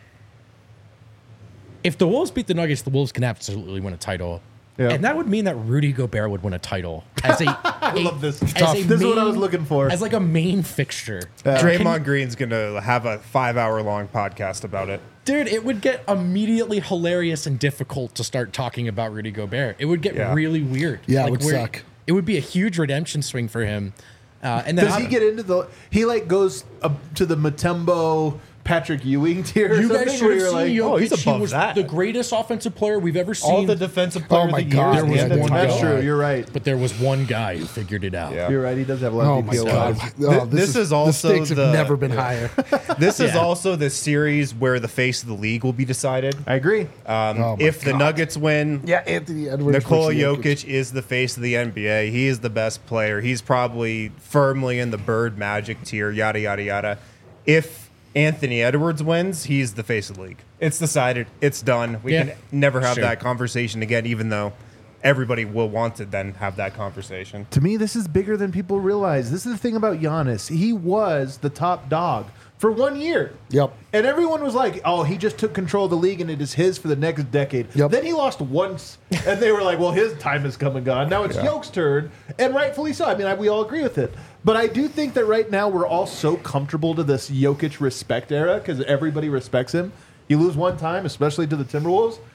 If the Wolves beat the Nuggets, the Wolves can absolutely win a title. Yeah. And that would mean that Rudy Gobert would win a title as a. I love this. As Tough. a This is what I main- was looking for. As like a main fixture. Draymond Green's going to have a five-hour-long podcast about it. Dude, it would get immediately hilarious and difficult to start talking about Rudy Gobert. It would get Yeah. really weird. Yeah, it would where- suck. It would be a huge redemption swing for him. Uh, and then Does I- he get into the? He like goes up to the Matumbo Patrick Ewing tier. Or You something, guys should where have you're seen like, Jokic. oh, he's He above was that. the greatest offensive player we've ever seen. All the defensive player Oh my of the God, year. there was at the one time. That's guy. true. You're right. But there was one guy who figured it out. Yeah. You're right. He does have a lot Oh of my D P O God! vibes. Oh, this is also the stakes the- have never been higher. This is Yeah. also the series where the face of the league will be decided. I agree. Um, Oh my if the God. Nuggets win, Yeah, Anthony Edwards. Nikola versus Jokic is the face of the N B A. He is the best player. He's probably firmly in the Bird Magic tier, yada, yada, yada. If Anthony Edwards wins, he's the face of the league. It's decided. It's done. We Yeah. can never have Sure. that conversation again, even though everybody will want to then have that conversation. To me, this is bigger than people realize. This is the thing about Giannis. He was the top dog for one year. Yep. And everyone was like, oh, he just took control of the league and it is his for the next decade. Yep. Then he lost once, and they were like, well, his time has come and gone. Now it's Yoke's turn, and rightfully so. I mean, I, we all agree with it. But I do think that right now we're all so comfortable to this Jokic respect era because everybody respects him. You lose one time, especially to the Timberwolves,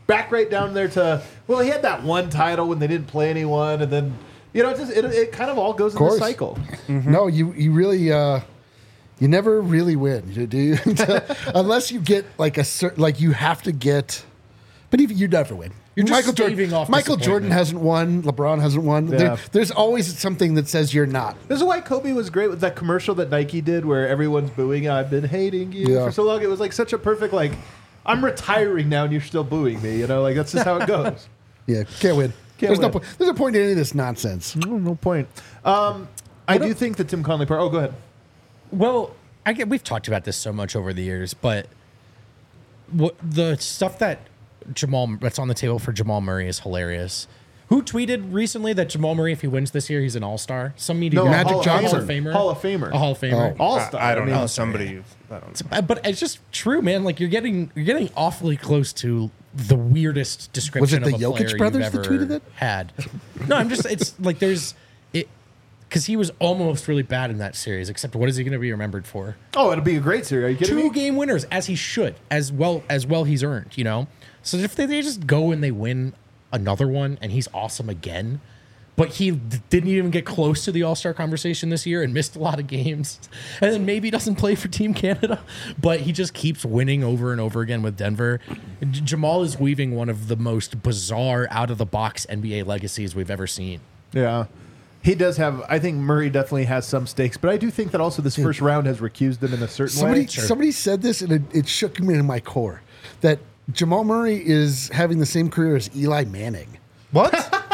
back right down there to, well, he had that one title when they didn't play anyone, and then, you know, it just it, it kind of all goes in the course. cycle. No, you you really uh, you never really win, do you? Unless you get like a certain, like you have to get, but even you never win. You're just Michael Jordan, staving off Michael Jordan disappointment. hasn't won. LeBron hasn't won. Yeah. There, there's always something that says you're not. This is why Kobe was great with that commercial that Nike did where everyone's booing, I've been hating you Yeah. for so long. It was like such a perfect, like, I'm retiring now and you're still booing me. You know, like that's just how it goes. Yeah, can't win. Can't there's no win. point. There's no point in any of this nonsense. no, no point. Um, I do think that Tim Conley part. Oh, go ahead. Well, I get we've talked about this so much over the years, but what the stuff that Jamal that's on the table for Jamal Murray is hilarious. Who tweeted recently that Jamal Murray, if he wins this year, he's an all-star? Some media No, guy. Magic Hall of Johnson. Hall of Famer. Hall of Famer. A Hall of Famer. Oh. All star. I, I don't mean, know. Somebody. I don't know. Uh, But it's just true, man. Like you're getting you're getting awfully close to the weirdest description the of a Jokic player brothers you've that ever tweeted that? had. No, I'm just it's like there's it because he was almost really bad in that series. Except what is he going to be remembered for? Oh, it'll be a great series. Are you kidding Two me? game winners, as he should, as well as well he's earned. You know, so if they, they just go and they win another one, and he's awesome again. But he d- didn't even get close to the All-Star conversation this year and missed a lot of games. And then maybe doesn't play for Team Canada, but he just keeps winning over and over again with Denver. J- Jamal is weaving one of the most bizarre, out-of-the-box N B A legacies we've ever seen. Yeah. He does have, I think Murray definitely has some stakes, but I do think that also this first round has recused him in a certain Somebody way. somebody said this, and it, it shook me in my core that Jamal Murray is having the same career as Eli Manning. What?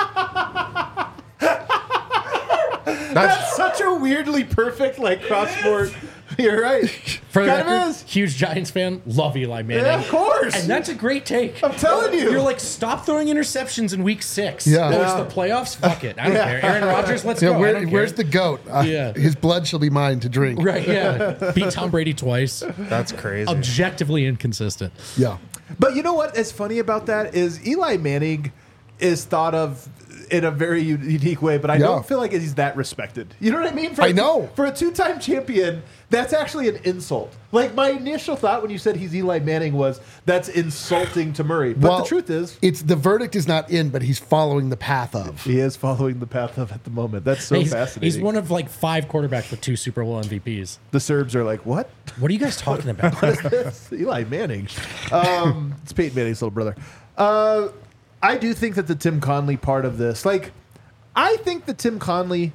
That's such a weirdly perfect, like, cross-sport. You're right. For the kind of record, is. huge Giants fan, love Eli Manning. Yeah, of course. And that's a great take. I'm telling you. You're like, stop throwing interceptions in week six. Yeah. Oh, it's Yeah. the playoffs? Fuck it. I don't care. Aaron Rodgers, let's Yeah, go. I where, don't care. where's the goat? Uh, Yeah. His blood shall be mine to drink. Right, yeah. Beat Tom Brady twice. That's crazy. Objectively inconsistent. Yeah. But you know what is funny about that is Eli Manning is thought of in a very u- unique way, but I Yeah. don't feel like he's that respected. You know what I mean? For I a- know. For a two-time champion, that's actually an insult. Like, my initial thought when you said he's Eli Manning was, that's insulting to Murray. But Well, the truth is, it's the verdict is not in, but he's following the path of. he is following the path of at the moment. That's so he's, fascinating. he's one of like five quarterbacks with two Super Bowl M V Ps. the Serbs are like, what? What are you guys talking about? It's Eli Manning. Um, it's Peyton Manning's little brother. Uh, I do think that the Tim Conley part of this, like, I think the Tim Conley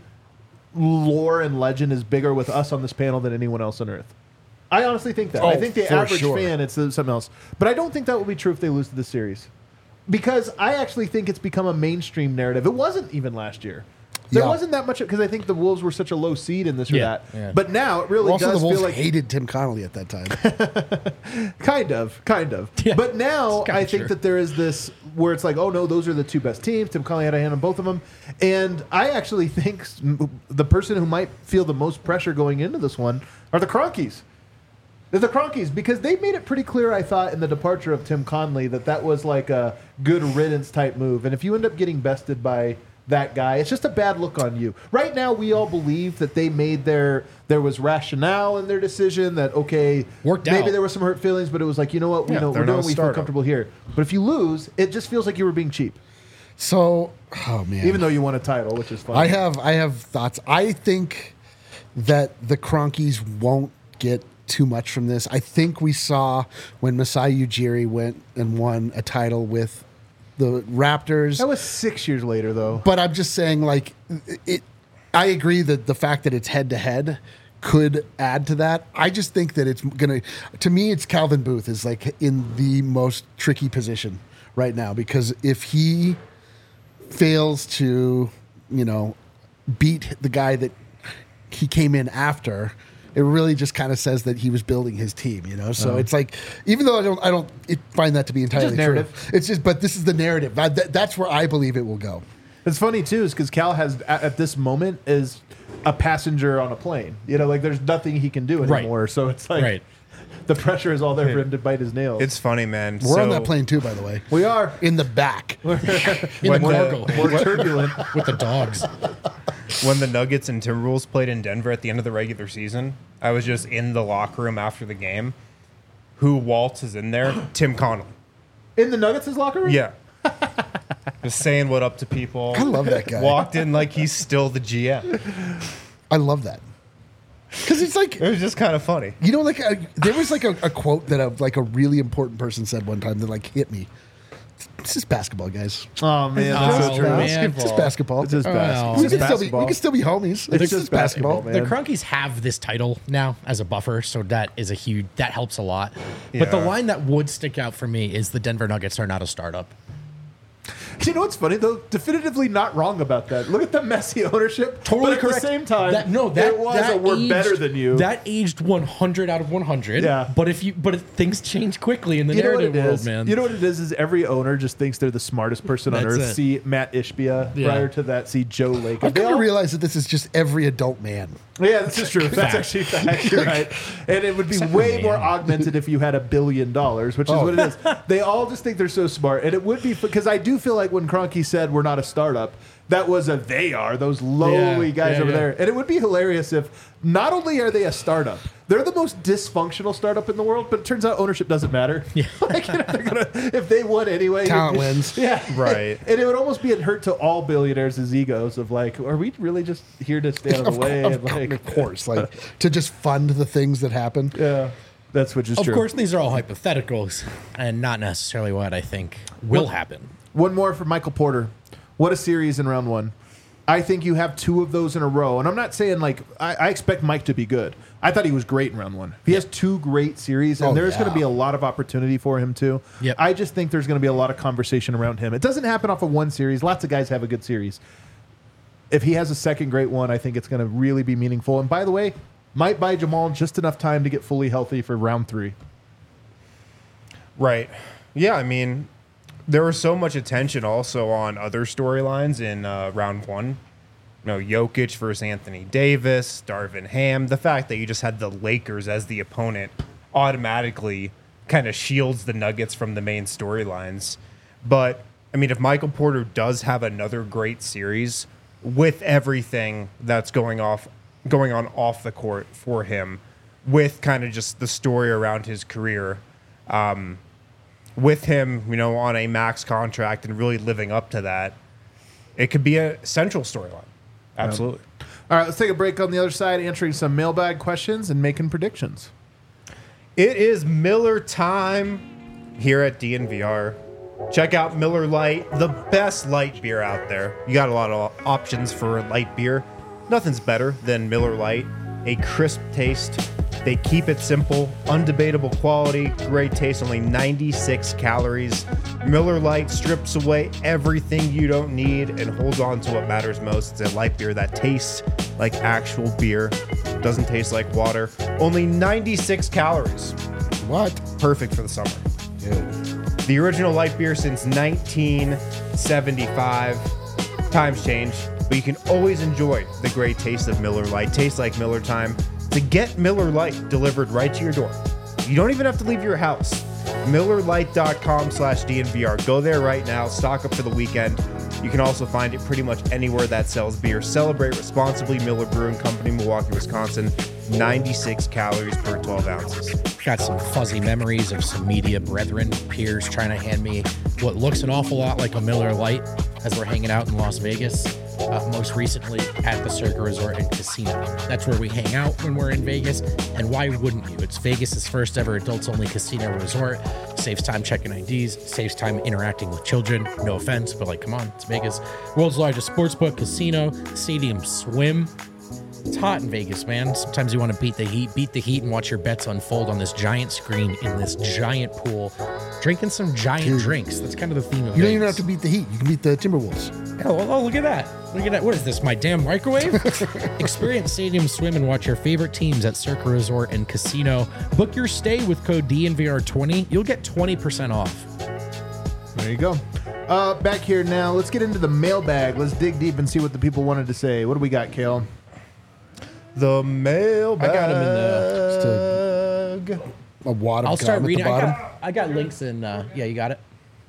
lore and legend is bigger with us on this panel than anyone else on earth. I honestly think that. I Oh, think the for average sure. fan, it's uh, something else. But I don't think that will be true if they lose to the series. Because I actually think it's become a mainstream narrative. It wasn't even last year. There Yeah. wasn't that much, because I think the Wolves were such a low seed in this or Yeah, that. yeah. But now it really Also, does the Wolves feel like hated Tim Connolly at that time. Kind of, kind of. Yeah, but now it's kinda I think true. that there is this where it's like, oh no, those are the two best teams. Tim Conley had a hand on both of them, and I actually think s- the person who might feel the most pressure going into this one are the Cronkies. They're the Cronkies because they made it pretty clear, I thought, in the departure of Tim Conley that that was like a good riddance type move, and if you end up getting bested by that guy, it's just a bad look on you. Right now, we all believe that they made their there was rationale in their decision that okay, Worked maybe out. there were some hurt feelings, but it was like, you know what, we Yeah, know they're we're not doing a what we feel startup. comfortable here. But if you lose, it just feels like you were being cheap, So, oh man. even though you won a title, which is fun. I have I have thoughts. I think that the Cronkies won't get too much from this. I think we saw when Masai Ujiri went and won a title with the Raptors. that was six years later, though. But I'm just saying, like, it. I agree that the fact that it's head to head could add to that. I just think that it's gonna. To me, it's Calvin Booth is like in the most tricky position right now because if he fails to, you know, beat the guy that he came in after, it really just kind of says that he was building his team, you know. So it's like, even though I don't, I don't it, find that to be entirely just true. narrative. It's just, but this is the narrative. I, that, that's where I believe it will go. It's funny too, is because Cal has at, at this moment is a passenger on a plane. You know, like there's nothing he can do Right. anymore. So it's like Right. the pressure is all there for him to bite his nails. It's funny, man. We're so, on that plane too, by the way. we are In the back. In the When the- cargo more turbulent. with the dogs. When the Nuggets and Timberwolves played in Denver at the end of the regular season, I was just in the locker room after the game. Who waltzes in there? Tim Connelly. In the Nuggets' locker room? Yeah. Just saying what up to people. I love that guy. Walked in like he's still the G M. I love that. Because it's like, It was just kind of funny. you know, like a, there was like a, a quote that a, like a really important person said one time that like hit me. It's just basketball, guys. Oh, man. Oh, That's so true. man. It's just basketball. It's just Oh, basketball. we, It's can just still be, basketball. we can still be homies. It's, It's just just basketball. basketball, man. The Crunkies have this title now as a buffer, so that is a huge that helps a lot. But the Yeah. line that would stick out for me is the Denver Nuggets are not a startup. You know what's funny though? Definitively not wrong about that. Look at the messy ownership. Totally but correct. At the same time, that, no, that it was that a we're aged- better than you. That aged one hundred out of one hundred. Yeah. But if you but if things change quickly in the you know what narrative it world, is, man. You know what it is? Is every owner just thinks they're the smartest person on That's earth. it. See Matt Ishbia. Yeah. Prior to that, see Joe Lacob. I've They come to all- realize that this is just every adult man. Yeah, this is true. That's actually fact. You're right. And it would be Except for way me. more augmented if you had a billion dollars, which is Oh. what it is. They all just think they're so smart. And it would be because I do feel like when Kroenke said we're not a startup, that was a they are, those lowly Yeah, guys yeah, over yeah. there. And it would be hilarious if not only are they a startup, they're the most dysfunctional startup in the world, but it turns out ownership doesn't matter. Yeah. like, you know, they're gonna, if they won anyway. Talent it- wins. Yeah. Right. And it would almost be a hurt to all billionaires' egos of like, are we really just here to stay out of Of, the way? of, and like, of course, like to just fund the things that happen. yeah, that's which is of true. course, these are all hypotheticals and not necessarily what I think will happen. One more for Michael Porter. What a series in round one. I think you have two of those in a row. And I'm not saying like, I, I expect Mike to be good. I thought he was great in round one. He has two great series, and Oh, there's yeah. going to be a lot of opportunity for him too. Yep. I just think there's going to be a lot of conversation around him. It doesn't happen off of one series. Lots of guys have a good series. If he has a second great one, I think it's going to really be meaningful. And by the way, might buy Jamal just enough time to get fully healthy for round three. Right. Yeah, I mean, there was so much attention also on other storylines in uh, round one. You know, Jokic versus Anthony Davis, Darvin Ham. The fact that you just had the Lakers as the opponent automatically kind of shields the Nuggets from the main storylines. But, I mean, if Michael Porter does have another great series with everything that's going off, going on off the court for him, with kind of just the story around his career, um, with him, you know, on a max contract and really living up to that, it could be a central storyline. Absolutely. All right, let's take a break on the other side, answering some mailbag questions and making predictions. It is Miller time here at D N V R. Check out Miller Lite, the best light beer out there. You got a lot of options for light beer. Nothing's better than Miller Lite. A crisp taste. They keep it simple, undebatable quality, great taste, only ninety-six calories. Miller Lite strips away everything you don't need and holds on to what matters most. It's a light beer that tastes like actual beer, doesn't taste like water. Only ninety-six calories. What? Perfect for the summer. Dude. The original light beer since nineteen seventy-five. Times change, but you can always enjoy the great taste of Miller Lite. Tastes like Miller time. To get Miller Lite delivered right to your door, you don't even have to leave your house. Miller Lite dot com slash D N V R. Go there right now. Stock up for the weekend. You can also find it pretty much anywhere that sells beer. Celebrate responsibly. Miller Brewing Company, Milwaukee, Wisconsin. ninety-six calories per twelve ounces. Got some fuzzy memories of some media brethren, peers trying to hand me what looks an awful lot like a Miller Lite as we're hanging out in Las Vegas. Uh, most recently at the Circa Resort and Casino. That's where we hang out when we're in Vegas. And why wouldn't you? It's Vegas's first ever adults only casino resort. Saves time checking I Ds, saves time interacting with children. No offense, but like, come on, it's Vegas. World's largest sportsbook, casino, stadium swim. It's hot in Vegas, man. Sometimes you want to beat the heat, beat the heat, and watch your bets unfold on this giant screen in this giant pool, drinking some giant Dude. drinks. That's kind of the theme of You Vegas. don't even have to beat the Heat. You can beat the Timberwolves. Oh, well, oh, look at that. Look at that. What is this, my damn microwave? Experience Stadium Swim and watch your favorite teams at Circa Resort and Casino. Book your stay with code D N V R twenty. You'll get twenty percent off. There you go. Uh, back here now. Let's get into the mailbag. Let's dig deep and see what the people wanted to say. What do we got, Kale? The mailbag. I got 'em in Just A wad of I'll gum start at reading. the I bottom. got, I got links in. Uh, yeah, you got it.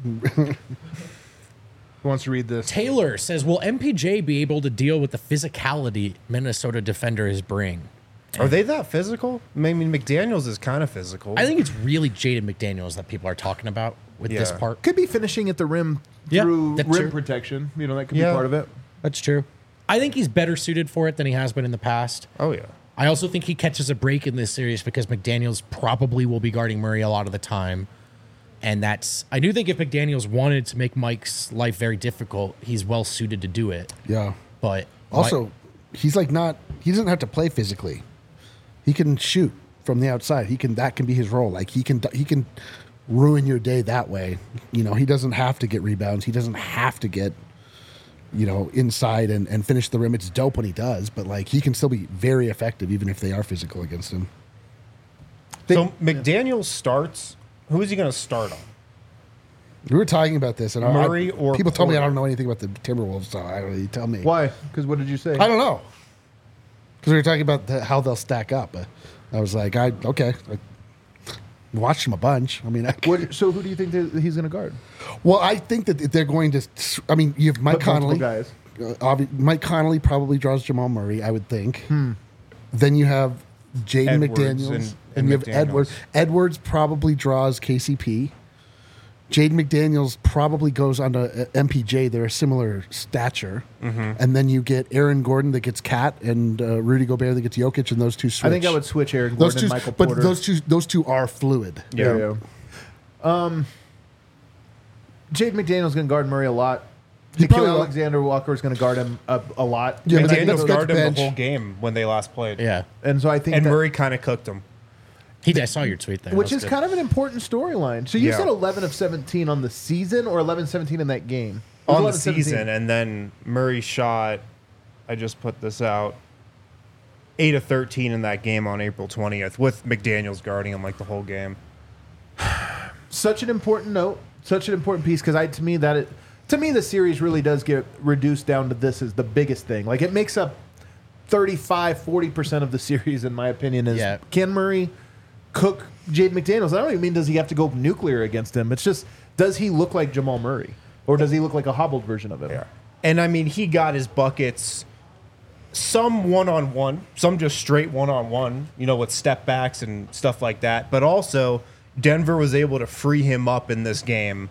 Who wants to read this? Taylor says, will M P J be able to deal with the physicality Minnesota defenders bring? Are they that physical? I mean, McDaniels is kind of physical. I think it's really Jaden McDaniels that people are talking about with this Yeah. part. Could be finishing at the rim Yeah, through that's rim true. protection. You know, that could Yeah. be part of it. That's true. I think he's better suited for it than he has been in the past. Oh, yeah. I also think he catches a break in this series because McDaniels probably will be guarding Murray a lot of the time. And that's, I do think if McDaniels wanted to make Mike's life very difficult, he's well suited to do it. Yeah. But Also, Mike- he's like not. He doesn't have to play physically. He can shoot from the outside. He can. That can be his role. Like he can. He can ruin your day that way. You know, he doesn't have to get rebounds. He doesn't have to get, you know, inside and, and finish the rim. It's dope when he does, but like he can still be very effective even if they are physical against him. So McDaniels starts. Who is he going to start on? We were talking about this, and I- Murray I, or people told me I Porter? don't know anything about the Timberwolves, so I don't really tell me. Why? Because what did you say? I don't know. Because we were talking about the, how they'll stack up. But I was like, I okay. I watched them a bunch. I mean, I, What, so who do you think that he's going to guard? well, I think that they're going to. I mean, you have Mike But multiple Conley. guys. Uh, obvi- Mike Conley probably draws Jamal Murray, I would think. Hmm. Then you have Jaden Edwards McDaniels, and- and, and you have McDaniels. Edwards. Edwards probably draws K C P. Jaden McDaniels probably goes on to uh, M P J. They're a similar stature. Mm-hmm. And then you get Aaron Gordon that gets Cat and uh, Rudy Gobert that gets Jokic, and those two switch. I think I would switch Aaron those Gordon two, and Michael but Porter. those two, those two are fluid. Yeah. There you go. Um, Jade McDaniel's going to guard Murray a lot. He Nikhil probably will. Alexander Walker is going to guard him a, a lot. Yeah, and, but I McDaniels that's- think, that's guarded him bench. the whole game when they last played. yeah, and so I think And that, Murray kind of cooked him. he. I saw your tweet there, which That is was kind of an important storyline. So you Yeah. said eleven of seventeen on the season or eleven seventeen in that game? It was On the eleven seventeen. season, and then Murray shot, I just put this out, eight of thirteen in that game on April twentieth, with McDaniels guarding him like the whole game. Such an important note, such an important piece because I to me that it, to me the series really does get reduced down to this as the biggest thing. Like it makes up thirty-five, forty percent of the series in my opinion is Yeah. can Murray cook Jade McDaniels? I don't even mean does he have to go nuclear against him. It's just does he look like Jamal Murray or does he look like a hobbled version of him? Yeah. And I mean, he got his buckets, some one on one, some just straight one on one, you know, with step backs and stuff like that. But also, Denver was able to free him up in this game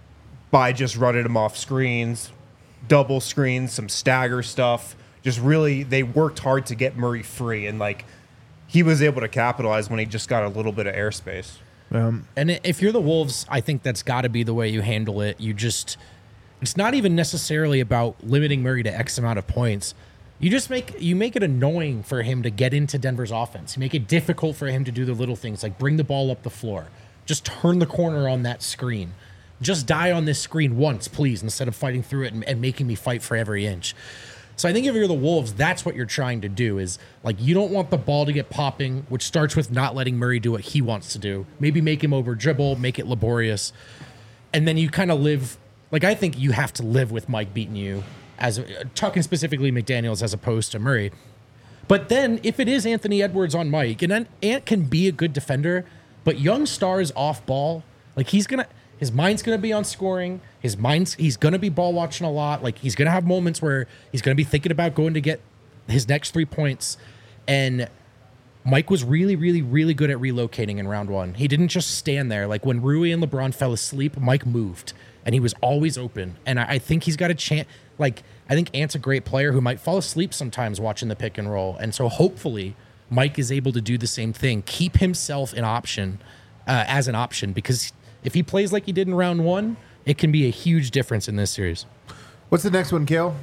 by just running him off screens, double screens, some stagger stuff. Just really, they worked hard to get Murray free. And like, he was able to capitalize when he just got a little bit of airspace. Um, And i- if you're the Wolves, I think that's got to be the way you handle it. You just, it's not even necessarily about limiting Murray to X amount of points. You just make you make it annoying for him to get into Denver's offense. You make it difficult for him to do the little things like bring the ball up the floor, just turn the corner on that screen, just die on this screen once, please, instead of fighting through it and, and making me fight for every inch. So I think if you're the Wolves, that's what you're trying to do is like you don't want the ball to get popping, which starts with not letting Murray do what he wants to do. Maybe make him over dribble, make it laborious. And then you kind of live like I think you have to live with Mike beating you as talking specifically McDaniels as opposed to Murray. But then if it is Anthony Edwards on Mike, and then Ant can be a good defender, but young stars off ball, like he's gonna his mind's gonna be on scoring. His mind's he's gonna be ball watching a lot. Like he's gonna have moments where he's gonna be thinking about going to get his next three points. And Mike was really, really, really good at relocating in round one. He didn't just stand there. Like when Rui and LeBron fell asleep, Mike moved and he was always open. And I, I think he's got a chance. Like, I think Ant's a great player who might fall asleep sometimes watching the pick and roll. And so hopefully Mike is able to do the same thing, keep himself an option uh, as an option, because if he plays like he did in round one, it can be a huge difference in this series. What's the next one, Kale?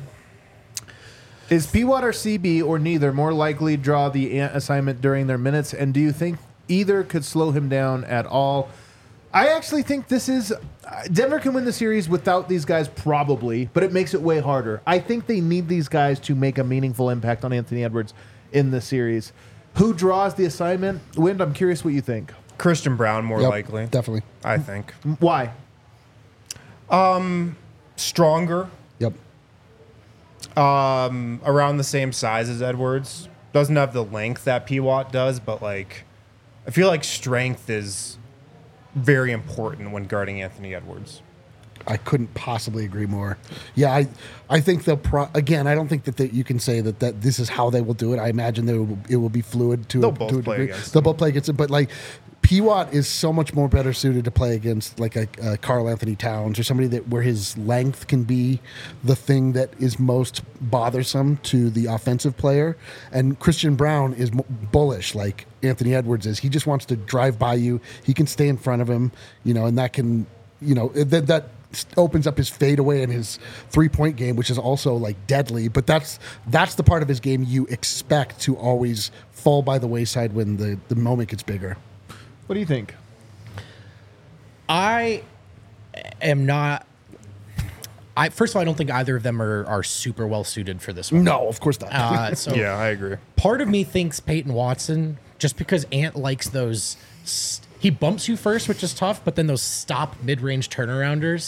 Is P W A T or C B or neither more likely draw the Ant assignment during their minutes? And do you think either could slow him down at all? I actually think this is uh, Denver can win the series without these guys probably, but it makes it way harder. I think they need these guys to make a meaningful impact on Anthony Edwards in the series. Who draws the assignment? Wind, I'm curious what you think. Christian Brown, more Yep, likely, definitely. I think. Why? Stronger, Yep. um, around the same size as Edwards. Doesn't have the length that P W A T does, but like, I feel like strength is very important when guarding Anthony Edwards. I couldn't possibly agree more. Yeah, I I think they'll pro- again. I don't think that they, you can say that, that this is how they will do it. I imagine they will, it will be fluid to, They'll a, both to a play degree. against They'll them. both play against it, but like P. Watt is so much more better suited to play against like a, a Karl Anthony Towns or somebody that where his length can be the thing that is most bothersome to the offensive player. And Christian Brown is mo- bullish like Anthony Edwards is. He just wants to drive by you. He can stay in front of him, you know, and that can, you know, that that opens up his fadeaway and his three-point game, which is also like deadly. But that's that's the part of his game you expect to always fall by the wayside when the, the moment gets bigger. What do you think? I am not. I first of all, I don't think either of them are, are super well suited for this one. No, of course not. Uh, so Yeah, I agree. part of me thinks Peyton Watson, just because Ant likes those, st- he bumps you first, which is tough, but then those stop mid-range turnarounders,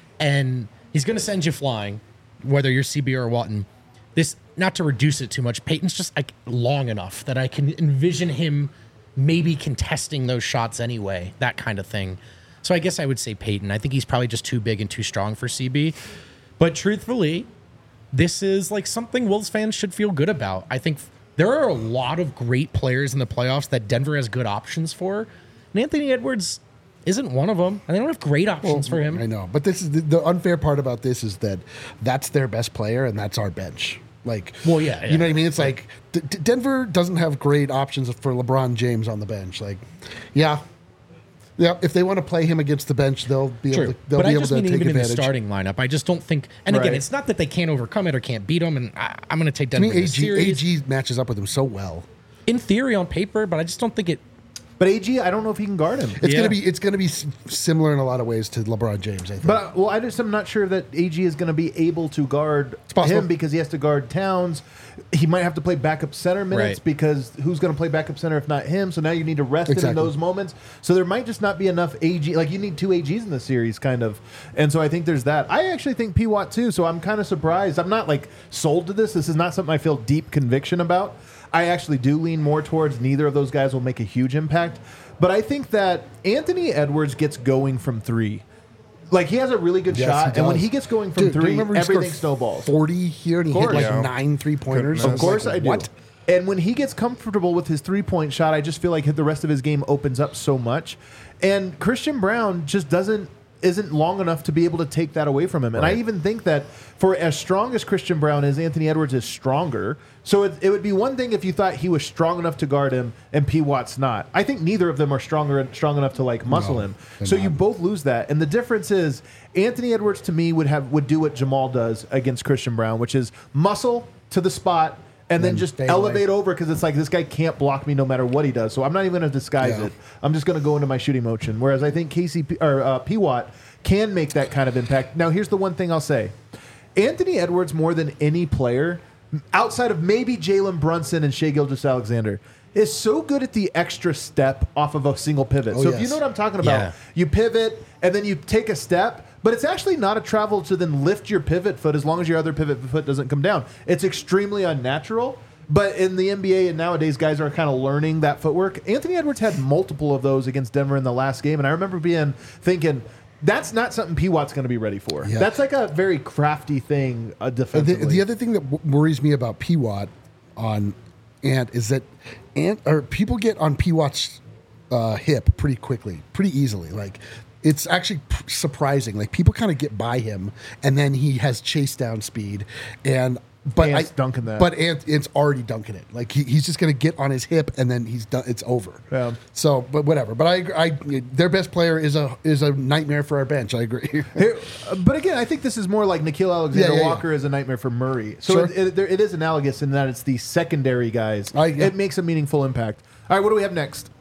and he's going to send you flying, whether you're C B or Watson. This, not to reduce it too much, Peyton's just like long enough that I can envision him maybe contesting those shots anyway, that kind of thing. So I guess I would say Peyton. I think he's probably just too big and too strong for C B. But truthfully, this is like something Wolves fans should feel good about. I think there are a lot of great players in the playoffs that Denver has good options for. And Anthony Edwards isn't one of them. And they don't have great options for him. I know, but this is the, the unfair part about this is that that's their best player and that's our bench. Like, Well, yeah, you yeah. know what I mean? It's like D- D- Denver doesn't have great options for LeBron James on the bench. Like, yeah, yeah. If they want to play him against the bench, they'll be True. able to, they'll But be I able just to mean take even in the advantage. starting lineup. I just don't think. And again, Right. it's not that they can't overcome it or can't beat them. And I, I'm going to take To Denver me, in this A G, series. A G matches up with him so well. In theory, on paper, but I just don't think it. But A G, I don't know if he can guard him. It's Yeah. gonna be it's gonna be s- similar in a lot of ways to LeBron James. I think. But well, I just am not sure that A G is going to be able to guard possible. him because he has to guard Towns. He might have to play backup center minutes Right. because who's going to play backup center if not him? So now you need to rest him in Exactly. those moments. So there might just not be enough A G. Like you need two A Gs in the series, kind of. And so I think there's that. I actually think P. Watt too. So I'm kind of surprised. I'm not like sold to this. This is not something I feel deep conviction about. I actually do lean more towards neither of those guys will make a huge impact. But I think that Anthony Edwards gets going from three. Like he has a really good Yes, shot, he and when does. he gets going from Dude, do you three, remember he scored everything snowballs. Forty here, and he hit course. like Yeah. nine three pointers. Goodness. Of course I do. What? And when he gets comfortable with his three-point shot, I just feel like the rest of his game opens up so much. And Christian Brown just doesn't isn't long enough to be able to take that away from him. And I even think that for as strong as Christian Brown is, Anthony Edwards is stronger. So it, it would be one thing if you thought he was strong enough to guard him and P. Watt's not. I think neither of them are stronger strong enough to like muscle No, him. they're So not. you both lose that. And the difference is Anthony Edwards to me would have would do what Jamal does against Christian Brown, which is muscle to the spot and then, Then just fade elevate away. over because it's like this guy can't block me no matter what he does. So I'm not even going to disguise Yeah. it. I'm just going to go into my shooting motion. Whereas I think K C P or uh, P. Watt can make that kind of impact. Now here's the one thing I'll say: Anthony Edwards, more than any player, outside of maybe Jalen Brunson and Shai Gilgeous-Alexander, is so good at the extra step off of a single pivot. Oh, so if you yes. know what I'm talking about, Yeah. you pivot and then you take a step. But it's actually not a travel to then lift your pivot foot as long as your other pivot foot doesn't come down. It's extremely unnatural. But in the N B A and nowadays, guys are kind of learning that footwork. Anthony Edwards had multiple of those against Denver in the last game, and I remember being thinking that's not something P. Watt's going to be ready for. Yeah. That's like a very crafty thing uh, The, defensively. the other thing that w- worries me about P. Watt on Ant is that Ant or people get on P. Watt's uh, hip pretty quickly, pretty easily. Like it's actually p- surprising. Like people kind of get by him, and then he has chase down speed, and but Ant's I, dunking that. But Ant, Ant's already dunking it. Like he, he's just going to get on his hip, and then he's done. It's over. Yeah. So, but whatever. But I, agree- I, their best player is a is a nightmare for our bench. I agree. Here- uh, but again, I think this is more like Nikhil Alexander Yeah, yeah, yeah. Walker is a nightmare for Murray. So Sure. it, it, there, it is analogous in that it's the secondary guys. I- yeah. It makes a meaningful impact. All right, what do we have next?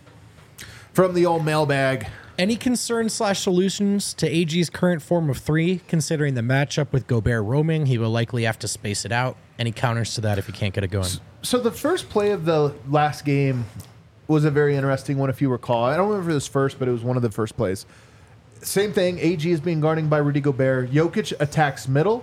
From the old mailbag. Any concerns slash solutions to A G's current form of three, considering the matchup with Gobert roaming? He will likely have to space it out. Any counters to that if he can't get it going? So the first play of the last game was a very interesting one, if you recall. I don't remember this first, but it was one of the first plays. Same thing. A G is being guarded by Rudy Gobert. Jokic attacks middle.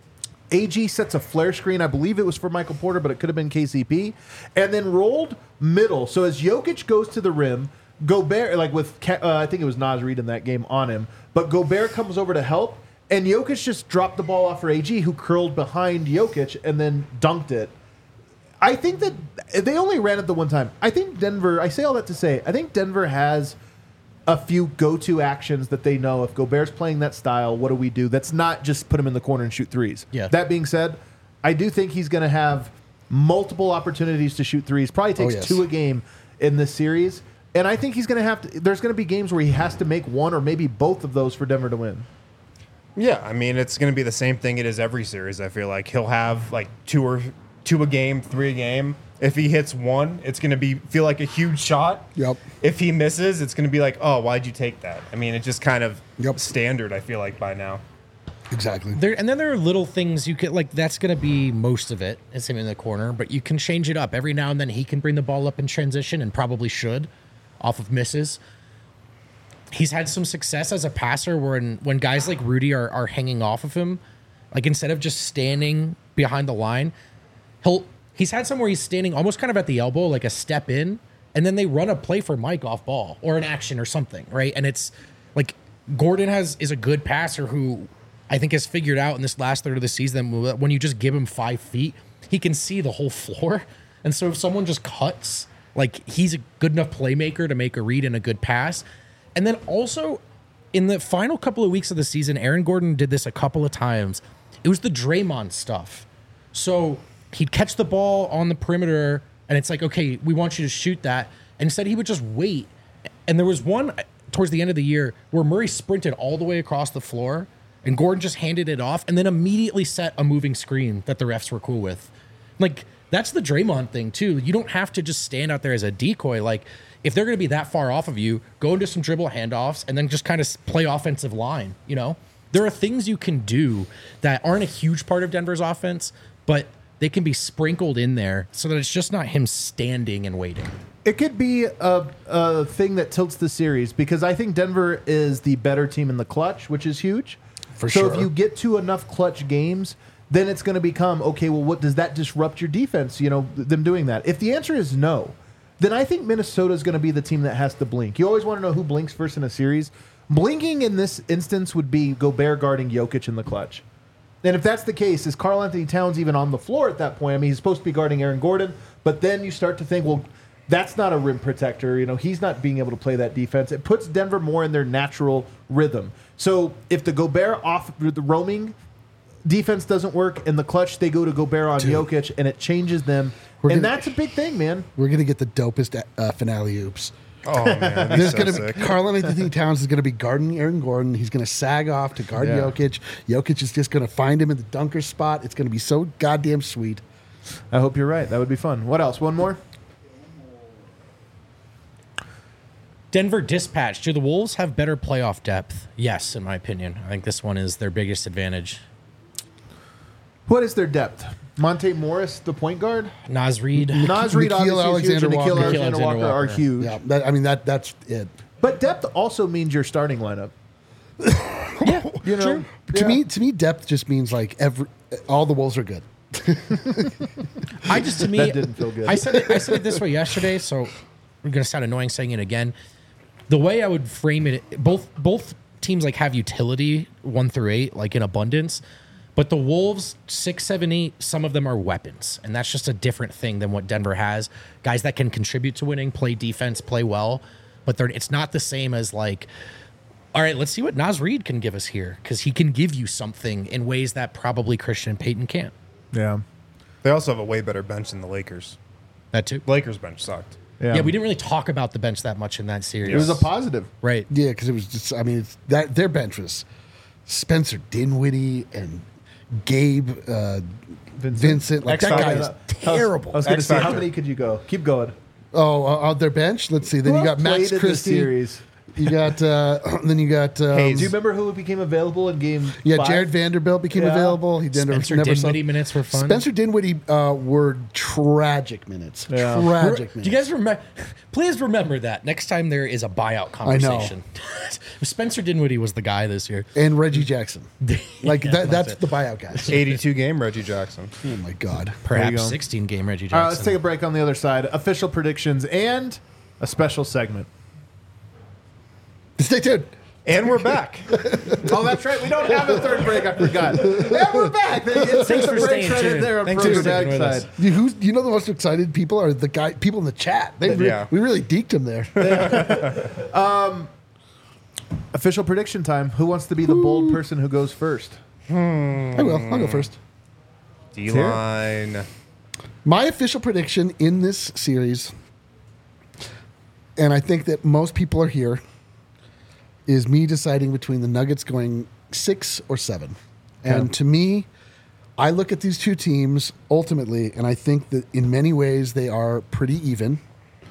A G sets a flare screen. I believe it was for Michael Porter, but it could have been K C P. And then rolled middle. So as Jokic goes to the rim, Gobert, like with, Ke- uh, I think it was Naz Reid in that game on him, but Gobert comes over to help, and Jokic just dropped the ball off for A G, who curled behind Jokic and then dunked it. I think that they only ran it the one time. I think Denver, I say all that to say, I think Denver has a few go-to actions that they know. If Gobert's playing that style, what do we do? That's not just put him in the corner and shoot threes. Yeah. That being said, I do think he's going to have multiple opportunities to shoot threes. Probably takes yes. two a game in this series. And I think he's going to have to, there's going to be games where he has to make one or maybe both of those for Denver to win. Yeah, I mean, it's going to be the same thing it is every series, I feel like. He'll have like two or two a game, three a game. If he hits one, it's going to be feel like a huge shot. Yep. If he misses, it's going to be like, oh, why'd you take that? I mean, it's just kind of Yep. standard, I feel like, by now. Exactly. There, and then there are little things you could like. That's going to be most of it. It's him in the corner, but you can change it up every now and then. He can bring the ball up in transition, and probably should, off of misses. He's had some success as a passer when when guys like Rudy are are hanging off of him, like instead of just standing behind the line, he'll he's had some where he's standing almost kind of at the elbow, like a step in, and then they run a play for Mike off ball or an action or something, right? And it's like Gordon has is a good passer who I think has figured out in this last third of the season that when you just give him five feet, he can see the whole floor. And so if someone just cuts, like he's a good enough playmaker to make a read and a good pass. And then also in the final couple of weeks of the season, Aaron Gordon did this a couple of times. It was the Draymond stuff. So he'd catch the ball on the perimeter and it's like, okay, we want you to shoot that. And instead he would just wait. And there was one towards the end of the year where Murray sprinted all the way across the floor and Gordon just handed it off and then immediately set a moving screen that the refs were cool with. Like, that's the Draymond thing, too. You don't have to just stand out there as a decoy. Like, if they're going to be that far off of you, go into some dribble handoffs and then just kind of play offensive line, you know? There are things you can do that aren't a huge part of Denver's offense, but they can be sprinkled in there so that it's just not him standing and waiting. It could be a, a thing that tilts the series because I think Denver is the better team in the clutch, which is huge. For so sure. if you get to enough clutch games, then it's going to become, okay, well, what does that disrupt your defense, you know, them doing that? If the answer is no, then I think Minnesota is going to be the team that has to blink. You always want to know who blinks first in a series. Blinking in this instance would be Gobert guarding Jokic in the clutch. And if that's the case, is Karl Anthony Towns even on the floor at that point? I mean, he's supposed to be guarding Aaron Gordon, but then you start to think, well, that's not a rim protector. You know, he's not being able to play that defense. It puts Denver more in their natural rhythm. So if the Gobert off the roaming defense doesn't work in the clutch, they go to Gobert on Dude. Jokic, and it changes them. We're and gonna- that's a big thing, man. We're gonna get the dopest uh, finale oops. Oh, man. that'd be There's so gonna sick. be Karl Anthony Towns is gonna be guarding Aaron Gordon. He's gonna sag off to guard Yeah. Jokic. Jokic is just gonna find him in the dunker spot. It's gonna be so goddamn sweet. I hope you're right. That would be fun. What else? One more? Denver Dispatch. Do the Wolves have better playoff depth? Yes, in my opinion. I think this one is their biggest advantage. What is their depth? Monte Morris, the point guard? Nas Reed. Nas Reed, Nikhil obviously, is huge, and Alexander Nikhil Walker. Alexander Nikhil Walker are Alexander huge. Yeah, that, I mean that that's it. But depth also means your starting lineup. Yeah, You know, true. To me, to me, depth just means like every all the Wolves are good. I just to me That didn't feel good. I said it, I said it this way yesterday, so I'm gonna sound annoying saying it again. The way I would frame it, both both teams like have utility one through eight, like in abundance, but the Wolves six, seven, eight, some of them are weapons, and that's just a different thing than what Denver has. Guys that can contribute to winning, play defense, play well, but they're it's not the same as like. All right, let's see what Nas Reed can give us here because he can give you something in ways that probably Christian and Peyton can't. Yeah. They also have a way better bench than the Lakers. That too. Lakers bench sucked. Yeah. Yeah, we didn't really talk about the bench that much in that series. It was a positive. right. Yeah, because it was just. I mean, it's, that their bench was Spencer Dinwiddie and Gabe uh, Vincent. Like X that guy Factor. is I was- terrible. I was going to X say, how Factor. many could you go? Keep going. Oh, uh, on their bench. Let's see. Then Who you got else played Max in the Christie. series? You got. Uh, then you got. Um, Hayes. Do you remember who became available in game Yeah, five? Jared Vanderbilt became Yeah. available. He didn't Spencer never saw- Dinwiddie minutes were fun. Spencer Dinwiddie uh, were tragic minutes. Yeah. Tragic Do minutes. you guys remember? Please remember that next time there is a buyout conversation. Spencer Dinwiddie was the guy this year. and Reggie Jackson. Like Yeah, that, that's that's it. the buyout guys. eighty-two game Reggie Jackson. Oh my god. Perhaps go. sixteen game Reggie Jackson. All right, let's take a break on the other side. Official predictions and a special segment. Stay tuned. And we're back. Oh, that's right. We don't have a third break. I forgot. And we're back. It's Thanks the for break staying right in tuned. there on Thanks for Frozen sticking Ag with us. side. You, who's, you know the most excited people are the guy people in the chat. They re- Yeah. We really deked them there. Official prediction time. Who wants to be the bold person who goes first? I will. I'll go first. D-line. My official prediction in this series, and I think that most people are here, is me deciding between the Nuggets going six or seven. And Yeah. to me, I look at these two teams ultimately, and I think that in many ways they are pretty even.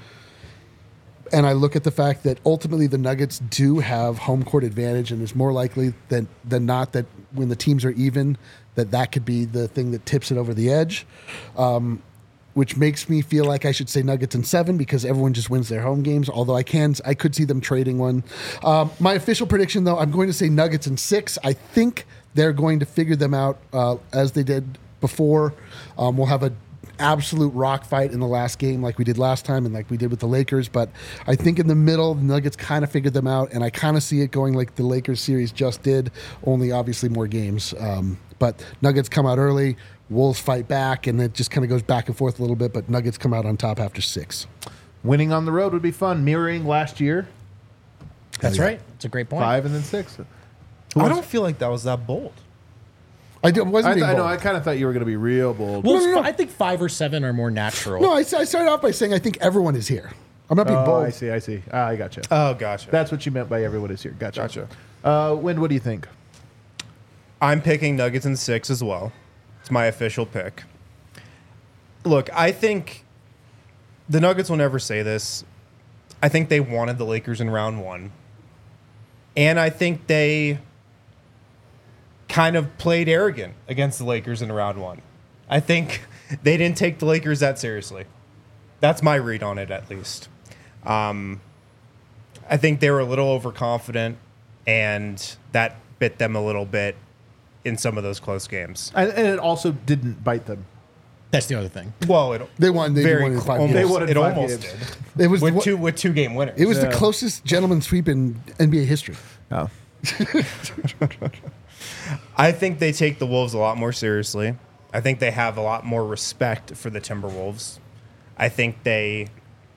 And I look at the fact that ultimately the Nuggets do have home court advantage, and it's more likely than than not that when the teams are even, that that could be the thing that tips it over the edge, um, which makes me feel like I should say Nuggets in seven because everyone just wins their home games. Although I can, I could see them trading one. Um, my official prediction, though, I'm going to say Nuggets in six. I think they're going to figure them out uh, as they did before. Um, we'll have a absolute rock fight in the last game like we did last time and like we did with the Lakers, but I think in the middle the Nuggets kind of figured them out, and I kind of see it going like the Lakers series just did, only obviously more games. Um, but Nuggets come out early, Wolves fight back, and it just kind of goes back and forth a little bit, but Nuggets come out on top after six. Winning on the road would be fun. Mirroring last year, That's right. It's a great point. five and then six. Who I wants- don't feel like that was that bold. I did, wasn't I, being th- I know. bold. I kind of thought you were going to be real bold. Well, No, no, no. I think five or seven are more natural. No, I, I started off by saying I think everyone is here. I'm not being oh, bold. I see. I see. Ah, I gotcha. Oh, gotcha. That's what you meant by everyone is here. Gotcha. Gotcha. Uh, Wind, what do you think? I'm picking Nuggets in six as well. It's my official pick. Look, I think the Nuggets will never say this. I think they wanted the Lakers in round one. And I think they kind of played arrogant against the Lakers in round one. I think they didn't take the Lakers that seriously. That's my read on it, at least. Um, I think they were a little overconfident, and that bit them a little bit in some of those close games. And, and it also didn't bite them. That's the other thing. Well, it They won. They very won in cl- five almost, games. They won in it five almost games. did It was with what- two with two game winners. It was Yeah. the closest gentleman sweep in N B A history. Oh. I think they take the Wolves a lot more seriously. I think they have a lot more respect for the Timberwolves. I think they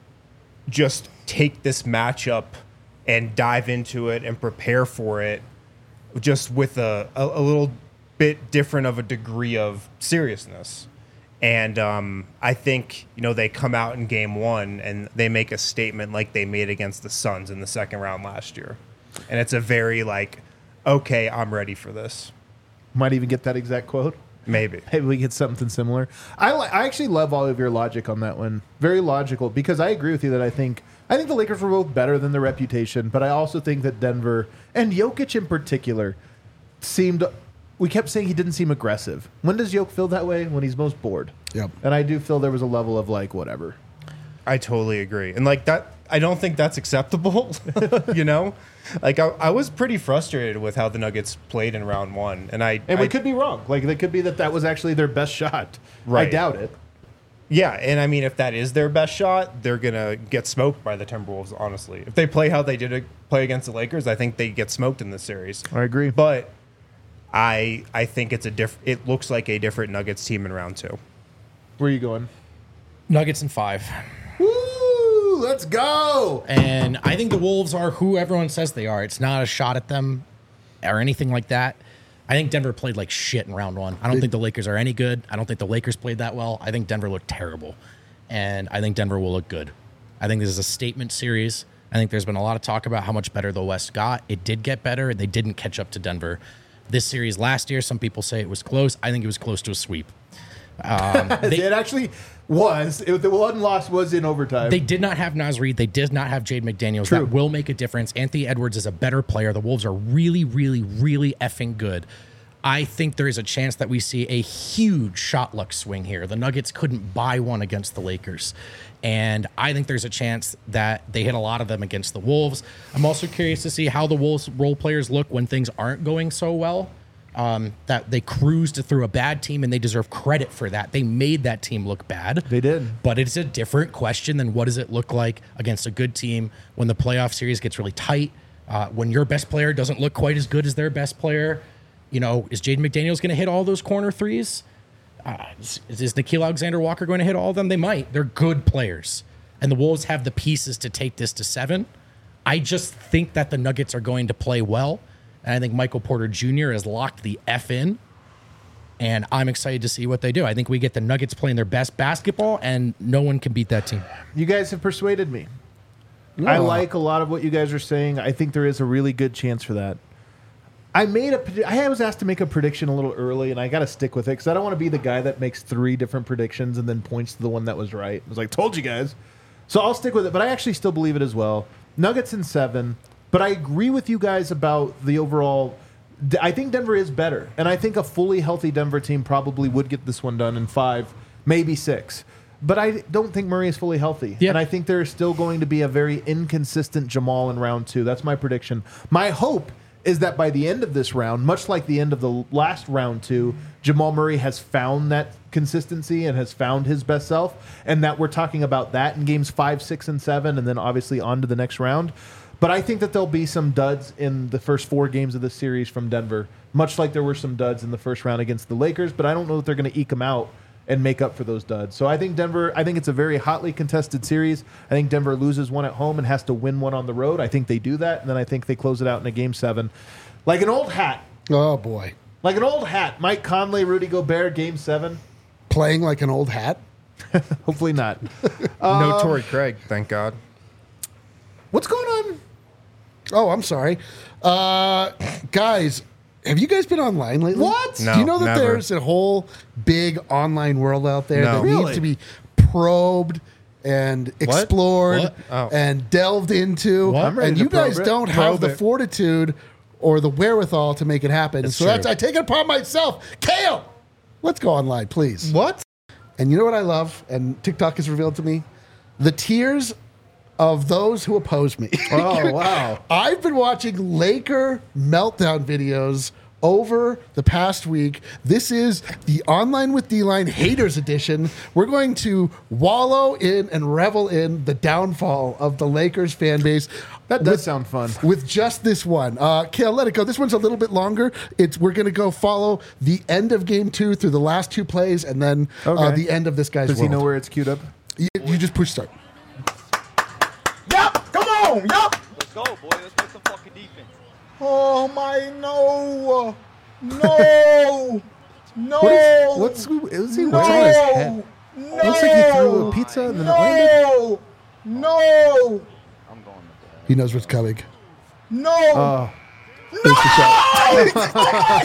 just take this matchup and dive into it and prepare for it just with a, a, a little bit different of a degree of seriousness. And um, I think, you know, they come out in game one and they make a statement like they made against the Suns in the second round last year. And it's a very like, okay, I'm ready for this. Might even get that exact quote. Maybe. Maybe we get something similar. I li- I actually love all of your logic on that one. Very logical because I agree with you that I think I think the Lakers were both better than their reputation, but I also think that Denver and Jokic in particular seemed. We kept saying he didn't seem aggressive. When does Jokic feel that way? When he's most bored. Yep. And I do feel there was a level of like whatever. I totally agree. And like that, I don't think that's acceptable, you know? Like I, I was pretty frustrated with how the Nuggets played in round one. And I, And I we could be wrong. Like it could be that that was actually their best shot. I Right. doubt it. yeah. And I mean, if that is their best shot, they're going to get smoked by the Timberwolves, honestly. If they play how they did it, play against the Lakers, I think they get smoked in this series. I agree. But I, I think it's a diff- it looks like a different Nuggets team in round two. Where are you going? Nuggets in five. Woo! Let's go. And I think the Wolves are who everyone says they are. It's not a shot at them or anything like that. I think Denver played like shit in round one. I don't think the Lakers are any good. I don't think the Lakers played that well. I think Denver looked terrible. And I think Denver will look good. I think this is a statement series. I think there's been a lot of talk about how much better the West got. It did get better. They didn't catch up to Denver. This series last year, some people say it was close. I think it was close to a sweep. Um, they, it actually was. It, the one loss was in overtime. They did not have Naz Reid. They did not have Jade McDaniels. True. That will make a difference. Anthony Edwards is a better player. The Wolves are really, really, really effing good. I think there is a chance that we see a huge shot luck swing here. The Nuggets couldn't buy one against the Lakers. And I think there's a chance that they hit a lot of them against the Wolves. I'm also curious to see how the Wolves role players look when things aren't going so well. Um, that they cruised through a bad team, and they deserve credit for that. They made that team look bad. They did. But it's a different question than what does it look like against a good team when the playoff series gets really tight. Uh, when your best player doesn't look quite as good as their best player, you know, is Jaden McDaniels going to hit all those corner threes? Uh, is, is Nickeil Alexander-Walker going to hit all of them? They might. They're good players. And the Wolves have the pieces to take this to seven. I just think that the Nuggets are going to play well. And I think Michael Porter Junior has locked the F in. And I'm excited to see what they do. I think we get the Nuggets playing their best basketball, and no one can beat that team. You guys have persuaded me. I like a lot of what you guys are saying. I think there is a really good chance for that. I made a. I was asked to make a prediction a little early, and I got to stick with it because I don't want to be the guy that makes three different predictions and then points to the one that was right. I was like, "Told you guys." So I'll stick with it, but I actually still believe it as well. Nuggets in seven, but I agree with you guys about the overall. I think Denver is better, and I think a fully healthy Denver team probably would get this one done in five, maybe six. But I don't think Murray is fully healthy. Yep. And I think there's still going to be a very inconsistent Jamal in round two. That's my prediction. My hope is that by the end of this round, much like the end of the last round two, Jamal Murray has found that consistency and has found his best self, and that we're talking about that in games five, six, and seven, and then obviously on to the next round. But I think that there'll be some duds in the first four games of the series from Denver, much like there were some duds in the first round against the Lakers, but I don't know if they're going to eke them out and make up for those duds. So I think Denver, I think it's a very hotly contested series. I think Denver loses one at home and has to win one on the road. I think they do that, and then I think they close it out in a game seven. Like an old hat. Oh, boy. Like an old hat. Mike Conley, Rudy Gobert, game seven. Playing like an old hat? Hopefully not. no Torrey Craig, thank God. What's going on? Oh, I'm sorry. Uh, guys, have you guys been online lately? What? No, Do you know that never. there's a whole big online world out there No. that Really? needs to be probed and explored What? Oh. and delved into? What? I'm ready And to you guys probe it. don't have Probe the it. fortitude or the wherewithal to make it happen. It's so true. that's I take it upon myself. Kale, let's go online, please. What? And you know what I love? And TikTok has revealed to me the tears of those who oppose me. Oh, wow. I've been watching Laker meltdown videos over the past week. This is the Online with D-Line Haters Edition. We're going to wallow in and revel in the downfall of the Lakers fan base. That does with- sound fun. With just this one. Uh, Kale, let it go. This one's a little bit longer. It's We're going to go follow the end of game two through the last two plays and then uh, Okay. the end of this guy's Does world. he know where it's queued up? You, you just push start. Yup, come on, yup. Let's go, boy. Let's play some fucking defense. Oh my no, no, no. What is, what's, is he, no, what's on his head? no, Looks like he threw a pizza and then it landed. no, no, I'm going with that. He knows what's coming. no. Oh. There's the shot.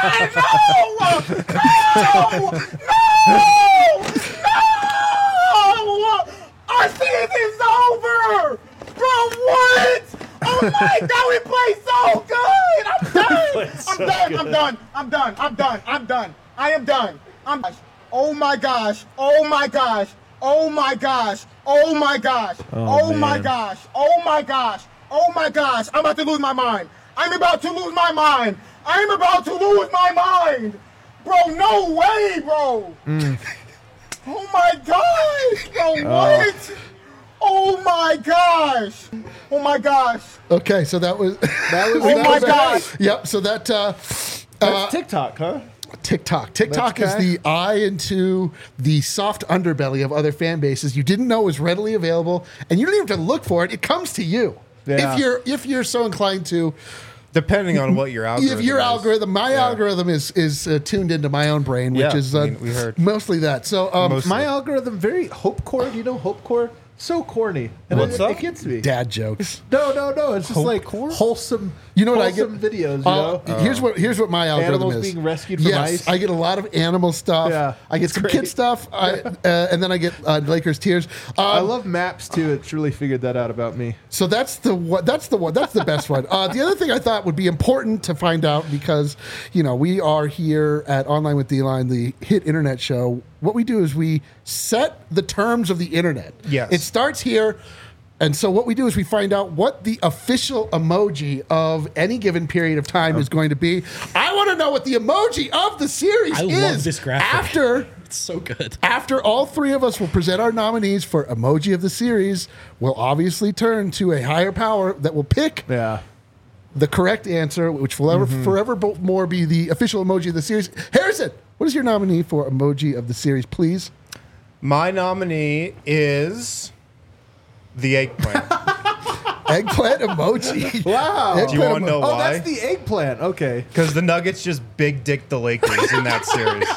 No! Our season's over! Bro, what? Oh my god, we play so good! I'm done! I'm done, I'm done, I'm done, I'm done, I'm done. I am done. I'm Oh my gosh, oh my gosh, oh my gosh, oh my gosh, oh, my man. gosh, oh my gosh, oh my gosh, I'm about to lose my mind. I'm about to lose my mind. I'm about to lose my mind. Bro, no way, bro. Oh my gosh, bro, what? Oh my gosh. Oh my gosh. Okay, so that was That was, Oh that my was gosh. yep. So that uh, That's TikTok, huh? TikTok, TikTok is That's the eye into the soft underbelly of other fan bases. You didn't know was readily available, and you don't even have to look for it. It comes to you Yeah. if you're if you're so inclined to. Depending on what your algorithm If your is. algorithm, my Yeah. algorithm is is uh, tuned into my own brain, which Yeah, is uh, I mean, we heard. mostly that. So um, Most- My algorithm, very Hope Core. Do you know Hope Core? So corny. And What's it, up? it gets me. dad jokes. No, no, no. It's just Hope like Core? wholesome. You know what I get? wholesome videos. You Uh, know. Here's what here's what my algorithm Animals is. being rescued from yes, ice. I get a lot of animal stuff. Yeah, I get it's some great. kid stuff, I, uh, and then I get uh, Lakers tears. Um, I love maps too. It truly figured that out about me. So that's the one. That's the one. That's the best one. Uh, the other thing I thought would be important to find out because you know we are here at Online with D-Line, the hit internet show. What we do is we set the terms of the internet. Yes. It starts here. And so what we do is we find out what the official emoji of any given period of time is going to be. I want to know what the emoji of the series I is. love this graphic. After It's so good. after all three of us will present our nominees for emoji of the series, we'll obviously turn to a higher power that will pick Yeah. the correct answer, which will ever Mm-hmm. forever bo- more be the official emoji of the series. Harrison, what is your nominee for emoji of the series, please? My nominee is the eggplant. Eggplant emoji. Wow. Eggplant Do you want to emo- know Oh, why? that's the eggplant. Okay. Because the Nuggets just big dick the Lakers in that series.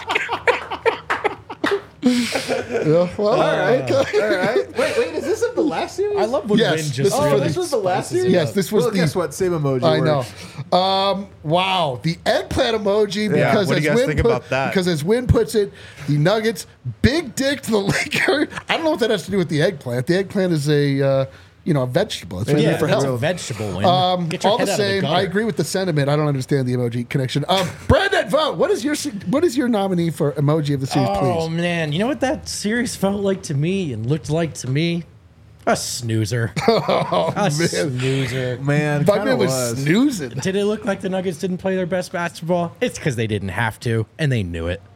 Yeah, well, all right. All right. Wait, wait. Is this of the last series? I love when Yes, Win this just is Oh, really this was the last spices it series. Yes, up. this was Well, the. guess what? Same emoji. I works. know. Um, wow, the eggplant emoji. Yeah, Because what do as you guys Win think put- about that? Because as Win puts it, the Nuggets big dick to the Lakers. I don't know what that has to do with the eggplant. The eggplant is a uh, you know a vegetable. It's really Yeah, good for that's health. a vegetable Win. Um, Get your all the head out of same, gutter. I agree with the sentiment. I don't understand the emoji connection. Um, Brandon, vote. What is your what is your nominee for emoji of the series, Oh please? man, you know what that series felt like to me and looked like to me? A snoozer. Oh, A man. snoozer. Man, Bugman kinda was, was. snoozing. Did it look like the Nuggets didn't play their best basketball? It's because they didn't have to, and they knew it.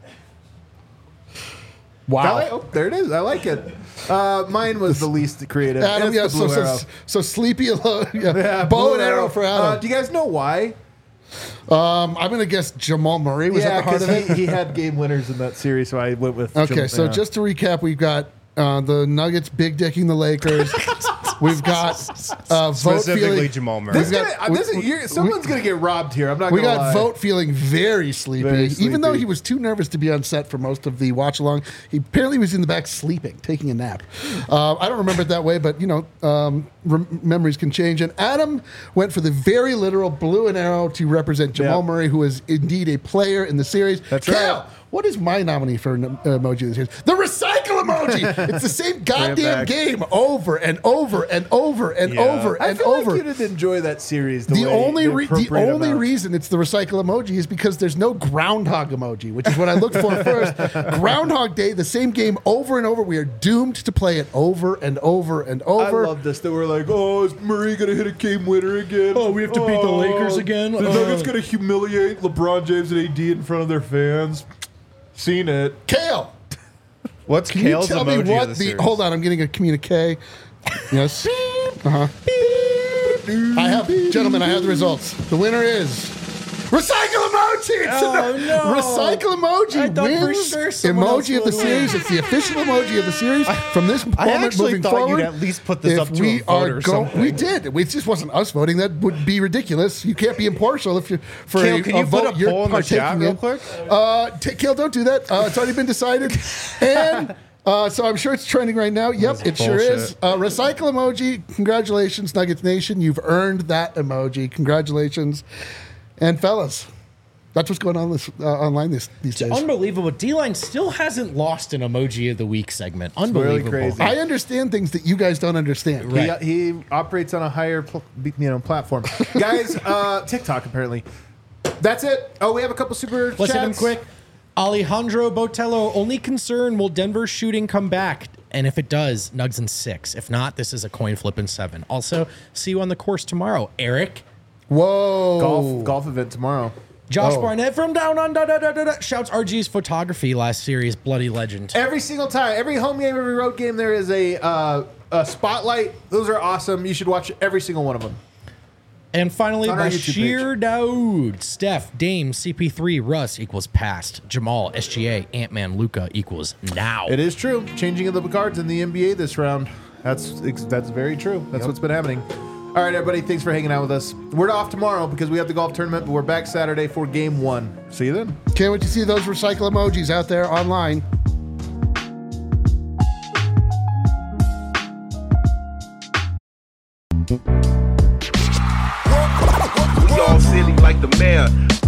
I Wow. like- oh, there it is. I like it. Uh, mine was the least creative. Adam, It's yeah, the so, blue so, arrow. so sleepy alone. Yeah. Yeah, Bow blue and arrow for Uh, Adam. do you guys know why? um, I'm going to guess Jamal Murray was yeah, at the heart because of it. he, he had game winners in that series, so I went with. Okay, Jam- so yeah. just to recap, we've got uh, the Nuggets big dicking the Lakers. We've got uh, vote Specifically feeling. Jamal Murray. This We've gonna, got- uh, this we- is, you're, someone's gonna get robbed here. I'm not. We gonna got lie. vote feeling very sleepy, Very even though sleepy. he was too nervous to be on set for most of the watch along. He apparently was in the back sleeping, taking a nap. Uh, I don't remember it that way, but you know, um, rem- memories can change. And Adam went for the very literal blue and arrow to represent Jamal Yep. Murray, who is indeed a player in the series. That's Cal, right. what is my nominee for an uh, emoji of the series? The recycle emoji. It's the same goddamn back. game over and over and over and Yeah. over I and feel over. like you didn't enjoy that series. The, The way only re- the appropriate only amount. reason it's the recycle emoji is because there's no groundhog emoji, which is what I looked for first. Groundhog Day, the same game over and over. We are doomed to play it over and over and I over. love this. That we're like, oh, is Murray gonna hit a game winner again? Oh, we have to beat the Lakers again? The Uh. Nuggets gonna humiliate LeBron James and A D in front of their fans. Seen it. Kale, What's can Kale's you tell me emoji what of the? the, series? Hold on, I'm getting a communique. Yes. Uh huh. I have, gentlemen. I have the results. The winner is. Recycle emoji! It's Oh, an- no. Recycle emoji I thought for wins sure someone else emoji of the would win. series. It's the official emoji of the series from this moment I actually moving thought forward. you'd at least put this if up to we a vote are or go- something. We did. It just wasn't us voting. That would be ridiculous. You can't be impartial if you for Kale, a, can you a vote put a you're poll in the chat partaking real in. quick? Uh, t- Kale, don't do that. Uh, it's already been decided, and. Uh, so I'm sure it's trending right now. Yep, That's it sure is. bullshit. Uh, recycle emoji. Congratulations, Nuggets Nation. You've earned that emoji. Congratulations. And fellas, that's what's going on this uh, online this, these days. Unbelievable. D-Line still hasn't lost an emoji of the week segment. really Unbelievable. crazy. I understand things that you guys don't understand. Right. He, he operates on a higher, pl- you know, platform. Guys, uh, TikTok apparently. That's it. Oh, we have a couple super Let's hit him chats. quick. Alejandro Botello, only concern, will Denver's shooting come back? And if it does, Nugs in six. If not, this is a coin flip in seven. Also, see you on the course tomorrow. Eric, Whoa. Golf golf event tomorrow. Josh Oh. Barnett from down under, da, da, da, da, shouts R G's photography last series, bloody legend. Every single time, every home game, every road game, there is a uh, a spotlight. Those are awesome. You should watch every single one of them. And finally, On our YouTube Bashir Daoud, Steph, Dame, C P three, Russ equals past, Jamal, S G A, Ant-Man, Luca equals now. It is true. Changing of the cards in the N B A this round. That's that's very true. That's what's been happening. All right, everybody. Thanks for hanging out with us. We're off tomorrow because we have the golf tournament, but we're back Saturday for game one. See you then. Can't wait to see those recycle emojis out there online. Y'all silly like the mayor.